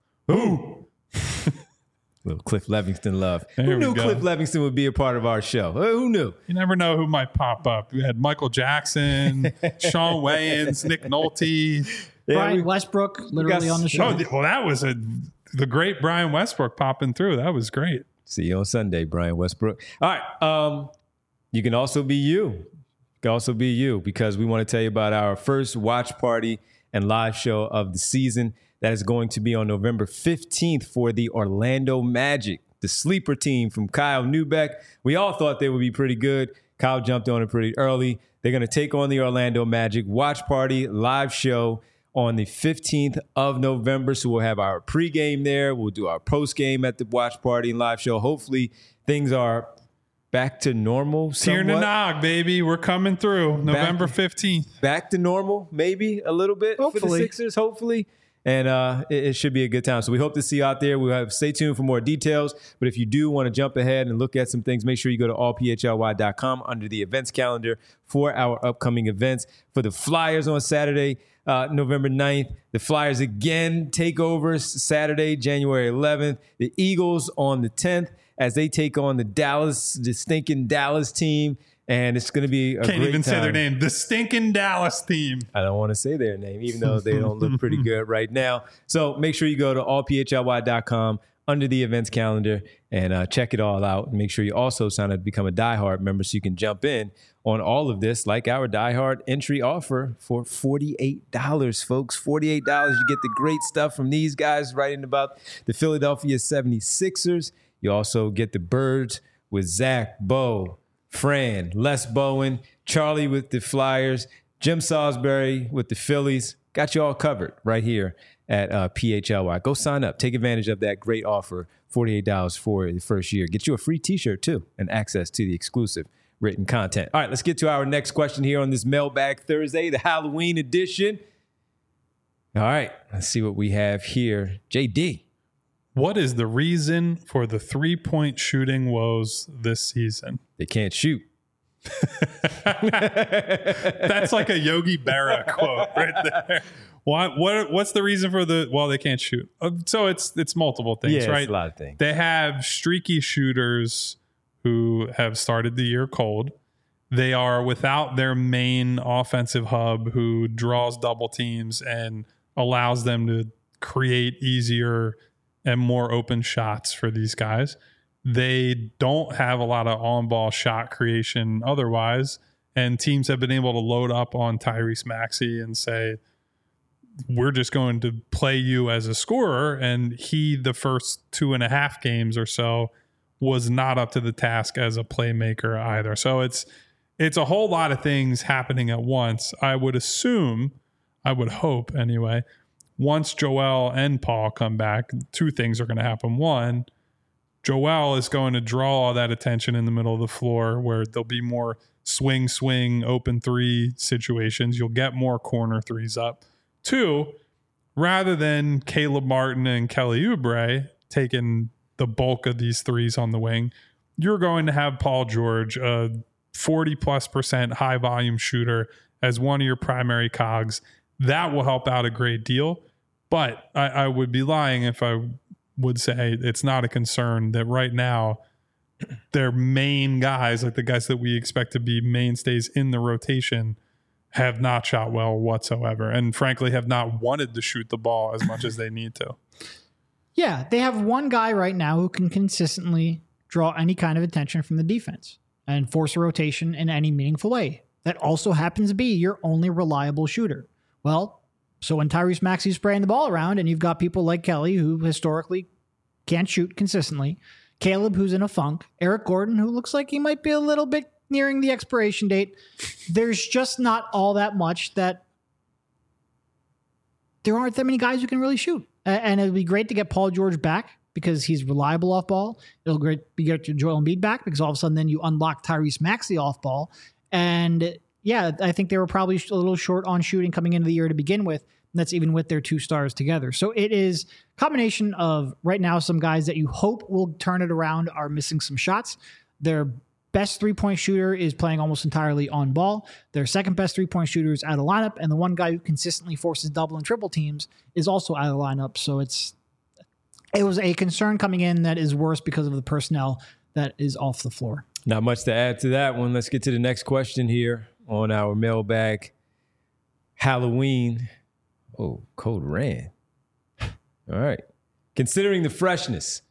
Ooh. Little Cliff Levingston love. There who we knew go. Cliff Levingston would be a part of our show? Uh, who knew? You never know who might pop up. We had Michael Jackson, Sean Wayans, Nick Nolte. Yeah, Brian we- Westbrook, literally got- on the show. Oh, well, that was a the great Brian Westbrook popping through. That was great. See you on Sunday, Brian Westbrook. All right. Um, you can also be you. You can also be you, because we want to tell you about our first watch party and live show of the season. That is going to be on November fifteenth for the Orlando Magic, the sleeper team from Kyle Neubeck. We all thought they would be pretty good. Kyle jumped on it pretty early. They're going to take on the Orlando Magic. Watch party, live show on the fifteenth of November. So we'll have our pregame there. We'll do our postgame at the watch party and live show. Hopefully things are back to normal. Tier somewhat. Nanog, baby. We're coming through November fifteenth. Back to normal, maybe a little bit for the Hopefully. Sixers, hopefully. And uh, it, it should be a good time. So we hope to see you out there. We'll have stay tuned for more details. But if you do want to jump ahead and look at some things, make sure you go to all p h l y dot com under the events calendar for our upcoming events. For the Flyers on Saturday, uh, November ninth, the Flyers again take over Saturday, January eleventh. The Eagles on the tenth as they take on the Dallas, the stinking Dallas team. And it's going to be a Can't great even time. say their name. The stinking Dallas team. I don't want to say their name, even though they don't look pretty good right now. So make sure you go to all p h l y dot com under the events calendar and uh, check it all out. And make sure you also sign up to become a diehard member so you can jump in on all of this, like our diehard entry offer for forty-eight dollars, folks. forty-eight dollars. You get the great stuff from these guys writing about the Philadelphia seventy-sixers. You also get the Birds with Zach, Bo, Fran, Les Bowen, Charlie with the Flyers, Jim Salisbury with the Phillies, got you all covered right here at uh, P H L Y. Go sign up. Take advantage of that great offer, forty-eight dollars for the first year. Get you a free t-shirt, too, and access to the exclusive written content. All right, let's get to our next question here on this Mailbag Thursday, the Halloween edition. All right, let's see what we have here. J D. What is the reason for the three-point shooting woes this season? They can't shoot. That's like a Yogi Berra quote right there. What what what's the reason for the well they can't shoot? Uh, so it's it's multiple things, yeah, right? It's a lot of things. They have streaky shooters who have started the year cold. They are without their main offensive hub who draws double teams and allows them to create easier and more open shots for these guys. They don't have a lot of on-ball shot creation otherwise, and teams have been able to load up on Tyrese Maxey and say, we're just going to play you as a scorer. And he, the first two and a half games or so, was not up to the task as a playmaker either. So it's it's a whole lot of things happening at once. I would assume, I would hope anyway, once Joel and Paul come back, two things are going to happen. One, Joel is going to draw all that attention in the middle of the floor where there'll be more swing, swing, open three situations. You'll get more corner threes up. Two, rather than Caleb Martin and Kelly Oubre taking the bulk of these threes on the wing, you're going to have Paul George, a forty plus percent high volume shooter, as one of your primary cogs. That will help out a great deal. But I, I would be lying if I would say it's not a concern that right now their main guys, like the guys that we expect to be mainstays in the rotation, have not shot well whatsoever, and frankly have not wanted to shoot the ball as much as they need to. Yeah, they have one guy right now who can consistently draw any kind of attention from the defense and force a rotation in any meaningful way. That also happens to be your only reliable shooter. Well, so when Tyrese Maxey's spraying the ball around and you've got people like Kelly who historically can't shoot consistently, Caleb who's in a funk, Eric Gordon who looks like he might be a little bit nearing the expiration date, there's just not all that much that there aren't that many guys who can really shoot. And it'd be great to get Paul George back because he's reliable off ball. It'll great be great to get Joel Embiid back because all of a sudden then you unlock Tyrese Maxey off ball. And yeah, I think they were probably a little short on shooting coming into the year to begin with. And that's even with their two stars together. So it is a combination of right now some guys that you hope will turn it around are missing some shots. Their best three-point shooter is playing almost entirely on ball. Their second best three-point shooter is out of lineup. And the one guy who consistently forces double and triple teams is also out of lineup. So it's it was a concern coming in that is worse because of the personnel that is off the floor. Not much to add to that one. Let's get to the next question here on our mailbag. Halloween. Oh, Code Ran. All right. Considering the freshness,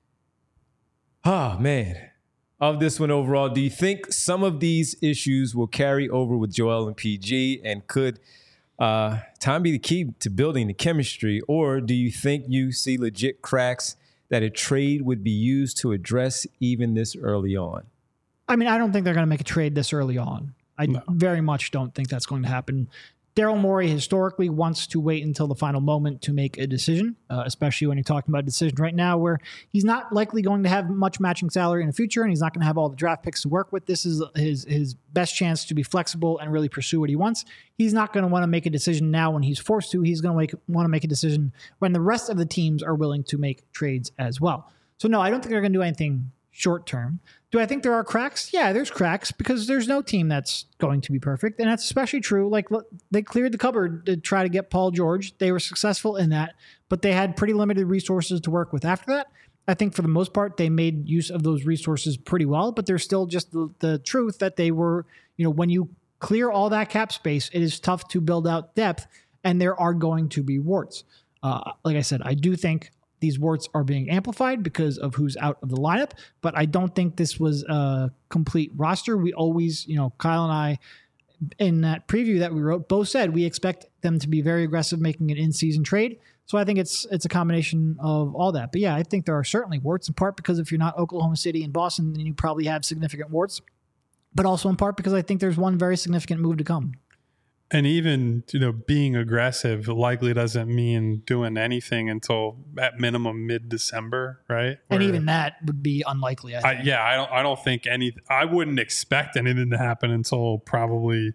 oh, man, of this one overall, do you think some of these issues will carry over with Joel and P G? And could uh, time be the key to building the chemistry? Or do you think you see legit cracks that a trade would be used to address even this early on? I mean, I don't think they're going to make a trade this early on. I no. very much don't think that's going to happen. Daryl Morey historically wants to wait until the final moment to make a decision, uh, especially when you're talking about a decision right now where he's not likely going to have much matching salary in the future and he's not going to have all the draft picks to work with. This is his his best chance to be flexible and really pursue what he wants. He's not going to want to make a decision now when he's forced to. He's going to want to make a decision when the rest of the teams are willing to make trades as well. So no, I don't think they're going to do anything short term. Do I think there are cracks? Yeah, there's cracks because there's no team that's going to be perfect. And that's especially true. Like look, they cleared the cupboard to try to get Paul George. They were successful in that, but they had pretty limited resources to work with after that. I think for the most part, they made use of those resources pretty well, but there's still just the, the truth that they were, you know, when you clear all that cap space, it is tough to build out depth and there are going to be warts. Uh, like I said, I do think these warts are being amplified because of who's out of the lineup, but I don't think this was a complete roster. We always, you know, Kyle and I, in that preview that we wrote, both said we expect them to be very aggressive making an in-season trade. So I think it's it's a combination of all that. But yeah, I think there are certainly warts, in part because if you're not Oklahoma City and Boston, then you probably have significant warts, but also in part because I think there's one very significant move to come. And even, you know, being aggressive likely doesn't mean doing anything until at minimum mid-December, right? And Where, even that would be unlikely. I think. I, yeah, I don't. I don't think any. I wouldn't expect anything to happen until probably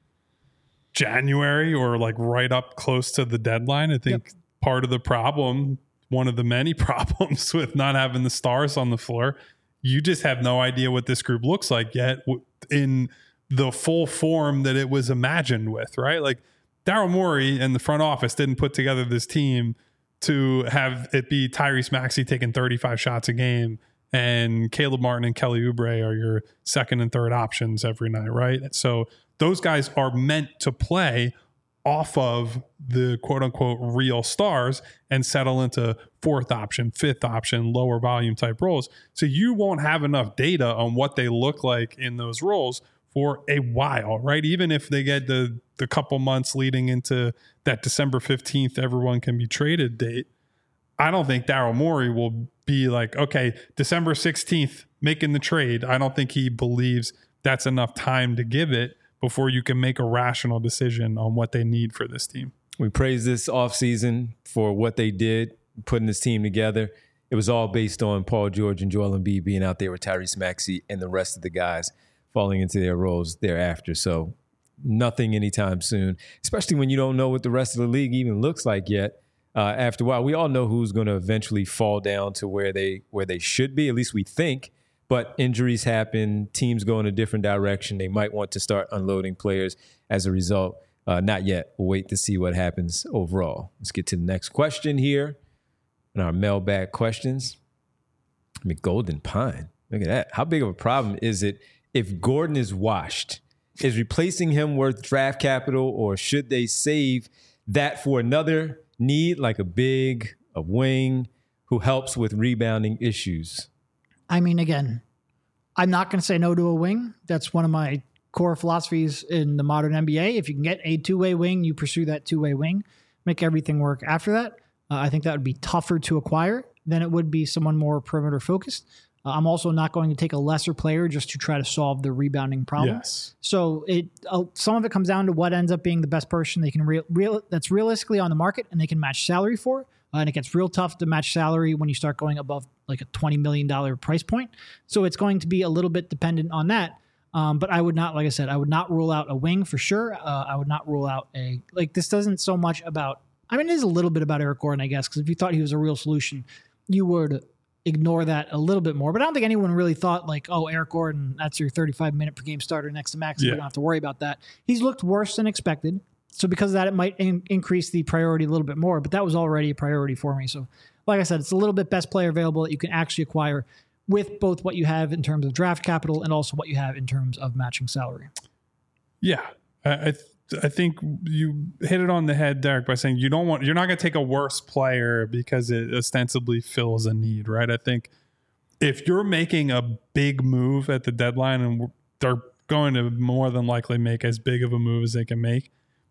January or like right up close to the deadline. I think yep. part of the problem, one of the many problems with not having the stars on the floor, you just have no idea what this group looks like yet in the full form that it was imagined with, right? Like Daryl Morey and the front office didn't put together this team to have it be Tyrese Maxey taking thirty-five shots a game and Caleb Martin and Kelly Oubre are your second and third options every night, right? So those guys are meant to play off of the quote unquote real stars and settle into fourth option, fifth option, lower volume type roles. So you won't have enough data on what they look like in those roles for a while, right? Even if they get the the couple months leading into that December fifteenth, everyone can be traded date, I don't think Daryl Morey will be like, okay, December sixteenth, making the trade. I don't think he believes that's enough time to give it before you can make a rational decision on what they need for this team. We praise this offseason for what they did, putting this team together. It was all based on Paul George and Joel Embiid being out there with Tyrese Maxey and the rest of the guys falling into their roles thereafter. So nothing anytime soon, especially when you don't know what the rest of the league even looks like yet. Uh, after a while, we all know who's going to eventually fall down to where they where they should be, at least we think. But injuries happen, teams go in a different direction. They might want to start unloading players as a result. Uh, not yet. We'll wait to see what happens overall. Let's get to the next question here in our mailbag questions. I mean, Golden Pine. Look at that. How big of a problem is it if Gordon is washed? Is replacing him worth draft capital, or should they save that for another need like a big, a wing who helps with rebounding issues? I mean, again, I'm not going to say no to a wing. That's one of my core philosophies in the modern N B A. If you can get a two-way wing, you pursue that two-way wing, make everything work after that. Uh, I think that would be tougher to acquire than it would be someone more perimeter focused. Uh, I'm also not going to take a lesser player just to try to solve the rebounding problem. Yes. So it uh, some of it comes down to what ends up being the best person they can real, real that's realistically on the market and they can match salary for. Uh, and it gets real tough to match salary when you start going above like a twenty million dollars price point. So it's going to be a little bit dependent on that. Um, but I would not, like I said, I would not rule out a wing for sure. Uh, I would not rule out a, like this doesn't so much about, I mean, it is a little bit about Eric Gordon, I guess, because if you thought he was a real solution, you would ignore that a little bit more. But I don't think anyone really thought like, oh, Eric Gordon, that's your thirty-five minute per game starter next to Max. Yeah. We don't have to worry about that. He's looked worse than expected. So because of that, it might in- increase the priority a little bit more, but that was already a priority for me. So like I said, it's a little bit best player available that you can actually acquire with both what you have in terms of draft capital and also what you have in terms of matching salary. Yeah. I, I, th- I think you hit it on the head, Derek, by saying you don't want, you're not going to take a worse player because it ostensibly fills a need, right? I think if you're making a big move at the deadline and they're going to more than likely make as big of a move as they can make,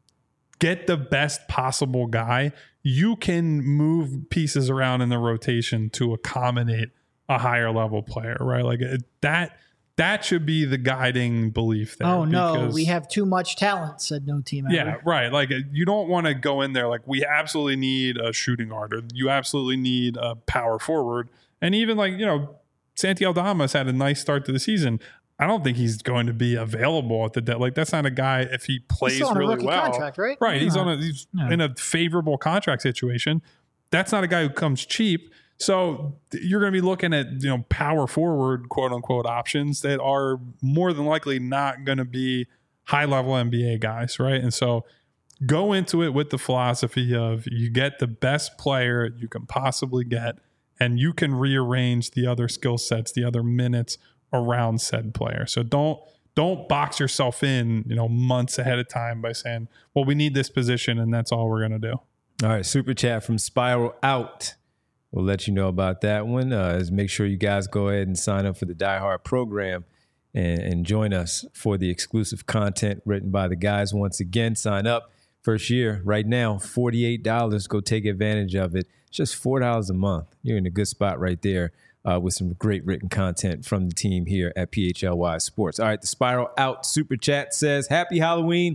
get the best possible guy. You can move pieces around in the rotation to accommodate a higher level player, right? Like it, that, that should be the guiding belief there. Oh no, we have too much talent, said no team ever. Yeah, right. Like you don't want to go in there like we absolutely need a shooting guard or you absolutely need a power forward. And even like, you know, Santi Aldamas had a nice start to the season. I don't think he's going to be available at the dead. Like that's not a guy if he plays he's on really a rookie well. Contract, right? Right. Yeah. He's on a he's yeah. in a favorable contract situation. That's not a guy who comes cheap. So you're going to be looking at, you know, power forward, quote unquote, options that are more than likely not going to be high level N B A guys, right? And so go into it with the philosophy of you get the best player you can possibly get, and you can rearrange the other skill sets, the other minutes around said player. So don't don't box yourself in, you know, months ahead of time by saying, well, we need this position and that's all we're going to do. All right, super chat from Spiral Out. We'll let you know about that one. Uh, is make sure you guys go ahead and sign up for the Die Hard program and, and join us for the exclusive content written by the guys. Once again, sign up. First year, right now, forty-eight dollars. Go take advantage of it. It's just four dollars a month. You're in a good spot right there uh, with some great written content from the team here at P H L Y Sports. All right, the Spiral Out super chat says, happy Halloween.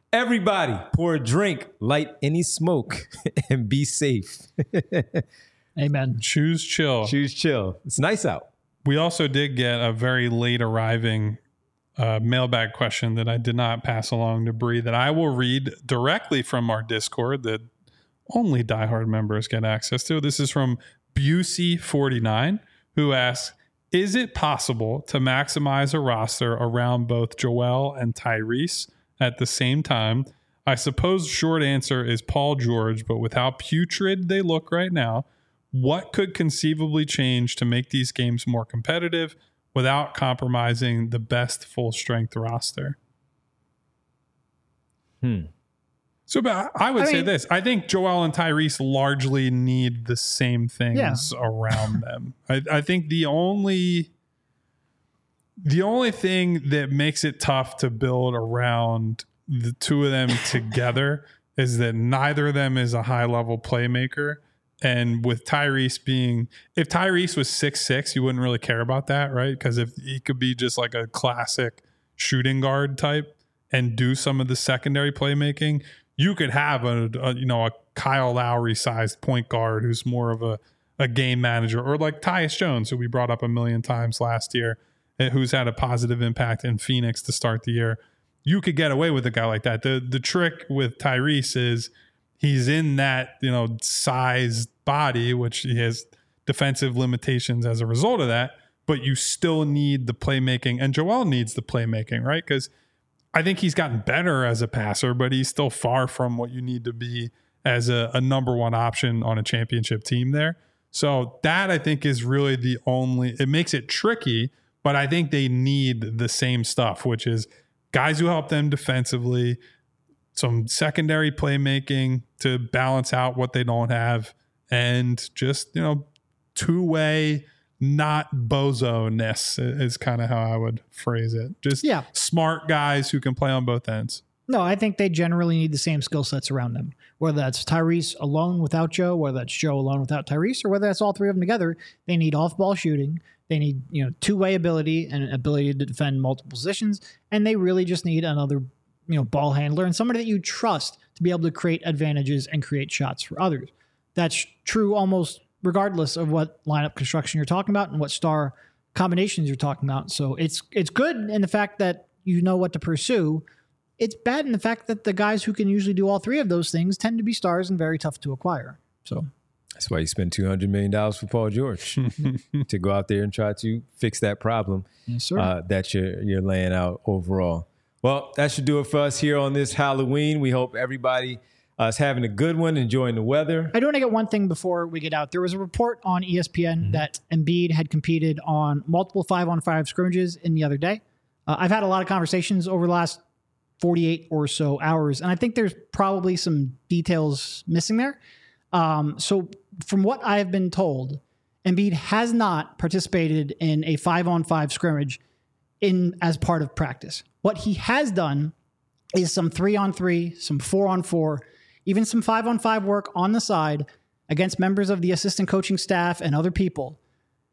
Everybody, pour a drink, light any smoke, and be safe. Amen. Choose chill. Choose chill. It's nice out. We also did get a very late arriving uh, mailbag question that I did not pass along to Bree that I will read directly from our Discord that only diehard members get access to. This is from Busey forty-nine, who asks, is it possible to maximize a roster around both Joel and Tyrese at the same time? I suppose short answer is Paul George, but with how putrid they look right now, what could conceivably change to make these games more competitive without compromising the best full strength roster? Hmm. So but I would I say mean, this. I think Joel and Tyrese largely need the same things Yeah. around them. I, I think the only the only thing that makes it tough to build around the two of them together is that neither of them is a high level playmaker. And with Tyrese being, if Tyrese was six six, you wouldn't really care about that, right? Because if he could be just like a classic shooting guard type and do some of the secondary playmaking, you could have a, a you know a Kyle Lowry sized point guard who's more of a, a game manager, or like Tyus Jones, who we brought up a million times last year, who's had a positive impact in Phoenix to start the year. You could get away with a guy like that. The the trick with Tyrese is he's in that, you know, sized body, which he has defensive limitations as a result of that, but you still need the playmaking, and Joel needs the playmaking, right? Because I think he's gotten better as a passer, but he's still far from what you need to be as a, a number one option on a championship team there. So that I think is really the only, it makes it tricky, but I think they need the same stuff, which is guys who help them defensively, some secondary playmaking to balance out what they don't have, and just, you know, two-way, not bozo-ness is kind of how I would phrase it. Just Yeah. smart guys who can play on both ends. No, I think they generally need the same skill sets around them. Whether that's Tyrese alone without Joe, whether that's Joe alone without Tyrese, or whether that's all three of them together, they need off-ball shooting. They need, you know, two-way ability and ability to defend multiple positions, and they really just need another, you know, ball handler and somebody that you trust to be able to create advantages and create shots for others. That's true almost regardless of what lineup construction you're talking about and what star combinations you're talking about. So it's it's good in the fact that you know what to pursue. It's bad in the fact that the guys who can usually do all three of those things tend to be stars and very tough to acquire. So that's why you spend two hundred million dollars for Paul George to go out there and try to fix that problem yes, sir. uh, that you're, you're laying out overall. Well, that should do it for us here on this Halloween. We hope everybody uh, is having a good one, enjoying the weather. I do want to get one thing before we get out. There was a report on E S P N mm-hmm. that Embiid had competed on multiple five-on-five scrimmages in the other day. Uh, I've had a lot of conversations over the last forty-eight or so hours, and I think there's probably some details missing there. Um, so from what I have been told, Embiid has not participated in a five-on-five scrimmage in as part of practice. What he has done is some three-on-three, some four-on-four, even some five-on-five work on the side against members of the assistant coaching staff and other people.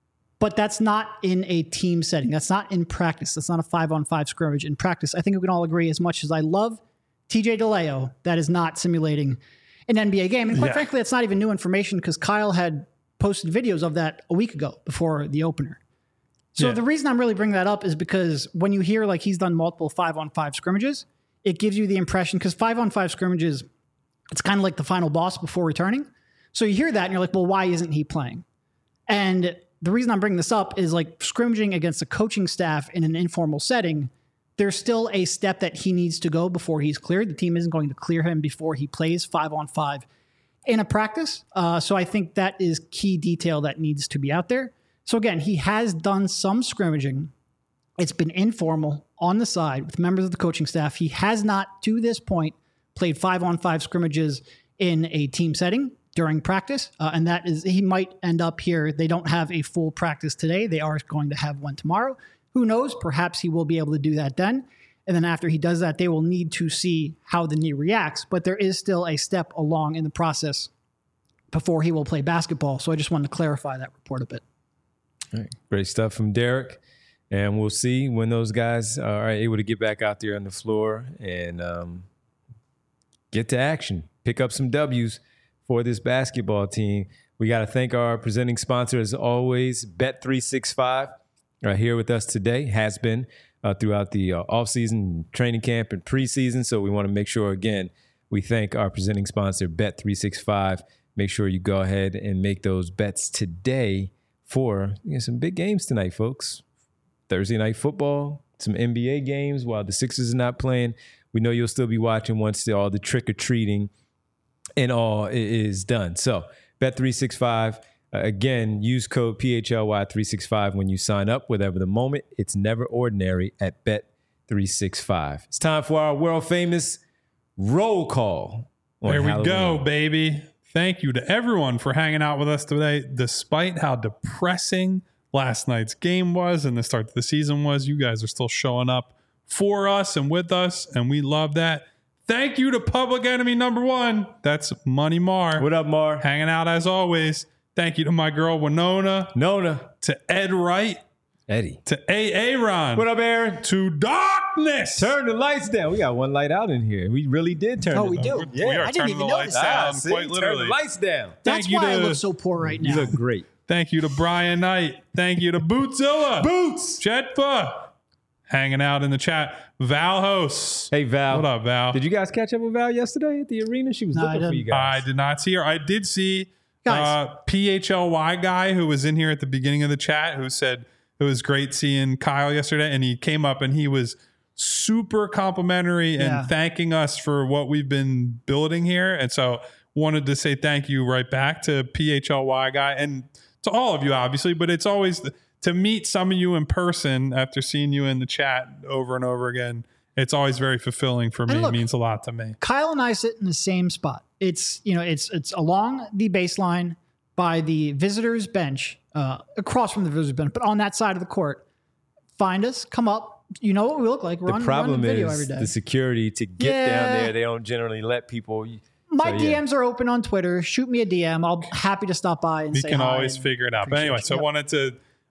But that's not in a team setting. That's not in practice. That's not a five-on-five scrimmage in practice. I think we can all agree, as much as I love T J DeLeo, that is not simulating an N B A game. And quite yeah. frankly, that's not even new information because Kyle had posted videos of that a week ago before the opener. So yeah. the reason I'm really bringing that up is because when you hear like he's done multiple five-on-five scrimmages, it gives you the impression, because five-on-five scrimmages, it's kind of like the final boss before returning. So you hear that and you're like, well, why isn't he playing? And the reason I'm bringing this up is like scrimmaging against a coaching staff in an informal setting, there's still a step that he needs to go before he's cleared. The team isn't going to clear him before he plays five-on-five in a practice. Uh, so I think that is key detail that needs to be out there. So again, he has done some scrimmaging. It's been informal on the side with members of the coaching staff. He has not, to this point, played five-on-five scrimmages in a team setting during practice. Uh, and that is, he might end up here. They don't have a full practice today. They are going to have one tomorrow. Who knows? Perhaps he will be able to do that then. And then after he does that, they will need to see how the knee reacts. But there is still a step along in the process before he will play basketball. So I just wanted to clarify that report a bit. All right. Great stuff from Derek. And we'll see when those guys are able to get back out there on the floor and um, get to action, pick up some W's for this basketball team. We got to thank our presenting sponsor, as always, Bet three sixty-five, uh, here with us today, has been uh, throughout the uh, offseason, training camp, and preseason. So we want to make sure, again, we thank our presenting sponsor, Bet three sixty-five. Make sure you go ahead and make those bets today for you know, some big games tonight, folks. Thursday night football, some N B A games while the Sixers are not playing. We know you'll still be watching once the, all the trick-or-treating and all is done. So, Bet three sixty-five, uh, again, use code P H L Y three sixty-five when you sign up. Whatever the moment, it's never ordinary at Bet three sixty-five. It's time for our world-famous roll call. There we Halloween. go, baby. Thank you to everyone for hanging out with us today. Despite how depressing last night's game was and the start of the season was, you guys are still showing up for us and with us, and we love that. Thank you to Public Enemy number one. That's Money Mar. What up, Mar? Hanging out as always. Thank you to my girl Winona. Nona. To Ed Wright. Eddie. To A A Ron. What up, Aaron? To Darkness. Turn the lights down. We got one light out in here. We really did turn Oh, it we down. do? We Yeah. are I didn't turning even the lights notice that. down, Ah, see? quite Turn literally. the lights down. That's Thank you why I to- look so poor right now. You look great. Thank you to Brian Knight. Thank you to Bootzilla. Boots. Jetfa. Hanging out in the chat. Val Hosts. Hey, Val. What up, Val? Did you guys catch up with Val yesterday at the arena? She was No, I looking for didn't. you guys. I did not see her. I did see Guys. uh, P H L Y guy who was in here at the beginning of the chat who said it was great seeing Kyle yesterday. And he came up and he was super complimentary and Yeah. thanking us for what we've been building here. And so wanted to say thank you right back to P H L Y guy and to all of you, obviously. But it's always to meet some of you in person after seeing you in the chat over and over again. It's always very fulfilling for me. And look, It means a lot to me. Kyle and I sit in the same spot. It's you know it's it's along the baseline by the visitors bench, uh, across from the visitors bench, but on that side of the court. Find us, come up. You know what we look like. We're the on, problem we're on video is every day. the security to get Yeah. down there. They don't generally let people. My so, yeah. D Ms are open on Twitter. Shoot me a D M. I'll happy to stop by and We say can hi always and figure it out. But appreciate anyway, you. so I Yep. wanted to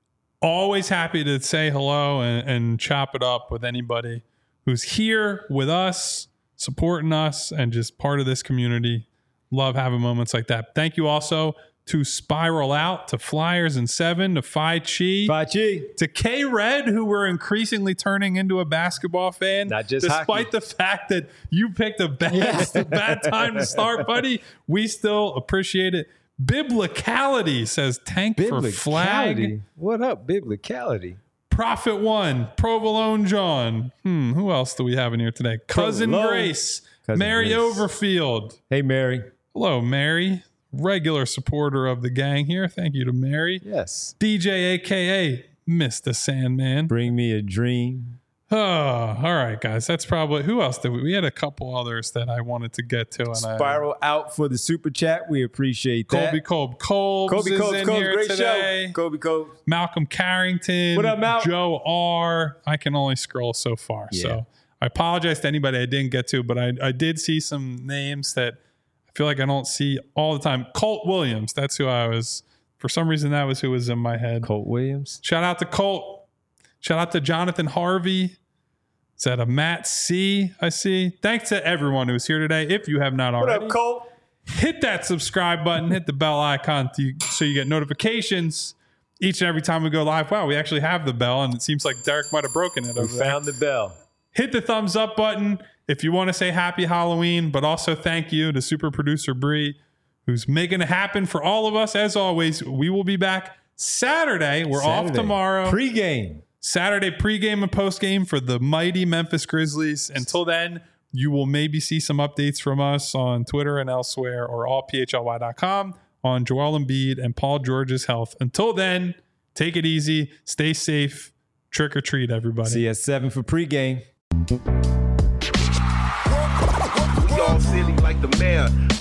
always happy to say hello and, and chop it up with anybody who's here with us, supporting us, and just part of this community. Love having moments like that. Thank you also to Spiral Out, to Flyers and Seven, to Phi Chi, Fachi. to K Red, who we're increasingly turning into a basketball fan. Not just despite hockey. the fact that you picked a bad, a bad time to start, buddy. We still appreciate it. Biblicality says tank for flag. Biblicality. What up, biblicality? Prophet One, Provolone John. Hmm, who else do we have in here today? Cousin Provolone. Grace, Cousin Mary Grace. Overfield. Hey, Mary. Hello, Mary. Regular supporter of the gang here. Thank you to Mary. Yes. D J, A K A Mister Sandman. Bring me a dream. Oh, all right, guys. That's probably who else did we? We had a couple others that I wanted to get to, and I, Spiral out for the super chat. We appreciate that. Colby Kolb Kolbs Kobe is Coates, in Coates, here great today. show. Kobe Coates. Malcolm Carrington. What up, Mal? Joe R. I can only scroll so far, Yeah. so I apologize to anybody I didn't get to, but I, I did see some names that I feel like I don't see all the time. Colt Williams. That's who I was. For some reason, that was who was in my head. Colt Williams. Shout out to Colt. Shout out to Jonathan Harvey. Is that a Matt C? I see. Thanks to everyone who's here today. If you have not What already, up, Colt? hit that subscribe button, hit the bell icon to, so you get notifications each and every time we go live. Wow, we actually have the bell, and it seems like Derek might have broken it We over there. found the bell. Hit the thumbs up button if you want to say happy Halloween, but also thank you to super producer Bree, who's making it happen for all of us. As always, we will be back Saturday. We're off Saturday. tomorrow. Pre-game. Saturday pregame and postgame for the mighty Memphis Grizzlies. Until then, you will maybe see some updates from us on Twitter and elsewhere, or all P H L Y dot com on Joel Embiid and Paul George's health. Until then, take it easy, stay safe, trick or treat, everybody. See you at seven for pregame. We all silly like the mayor.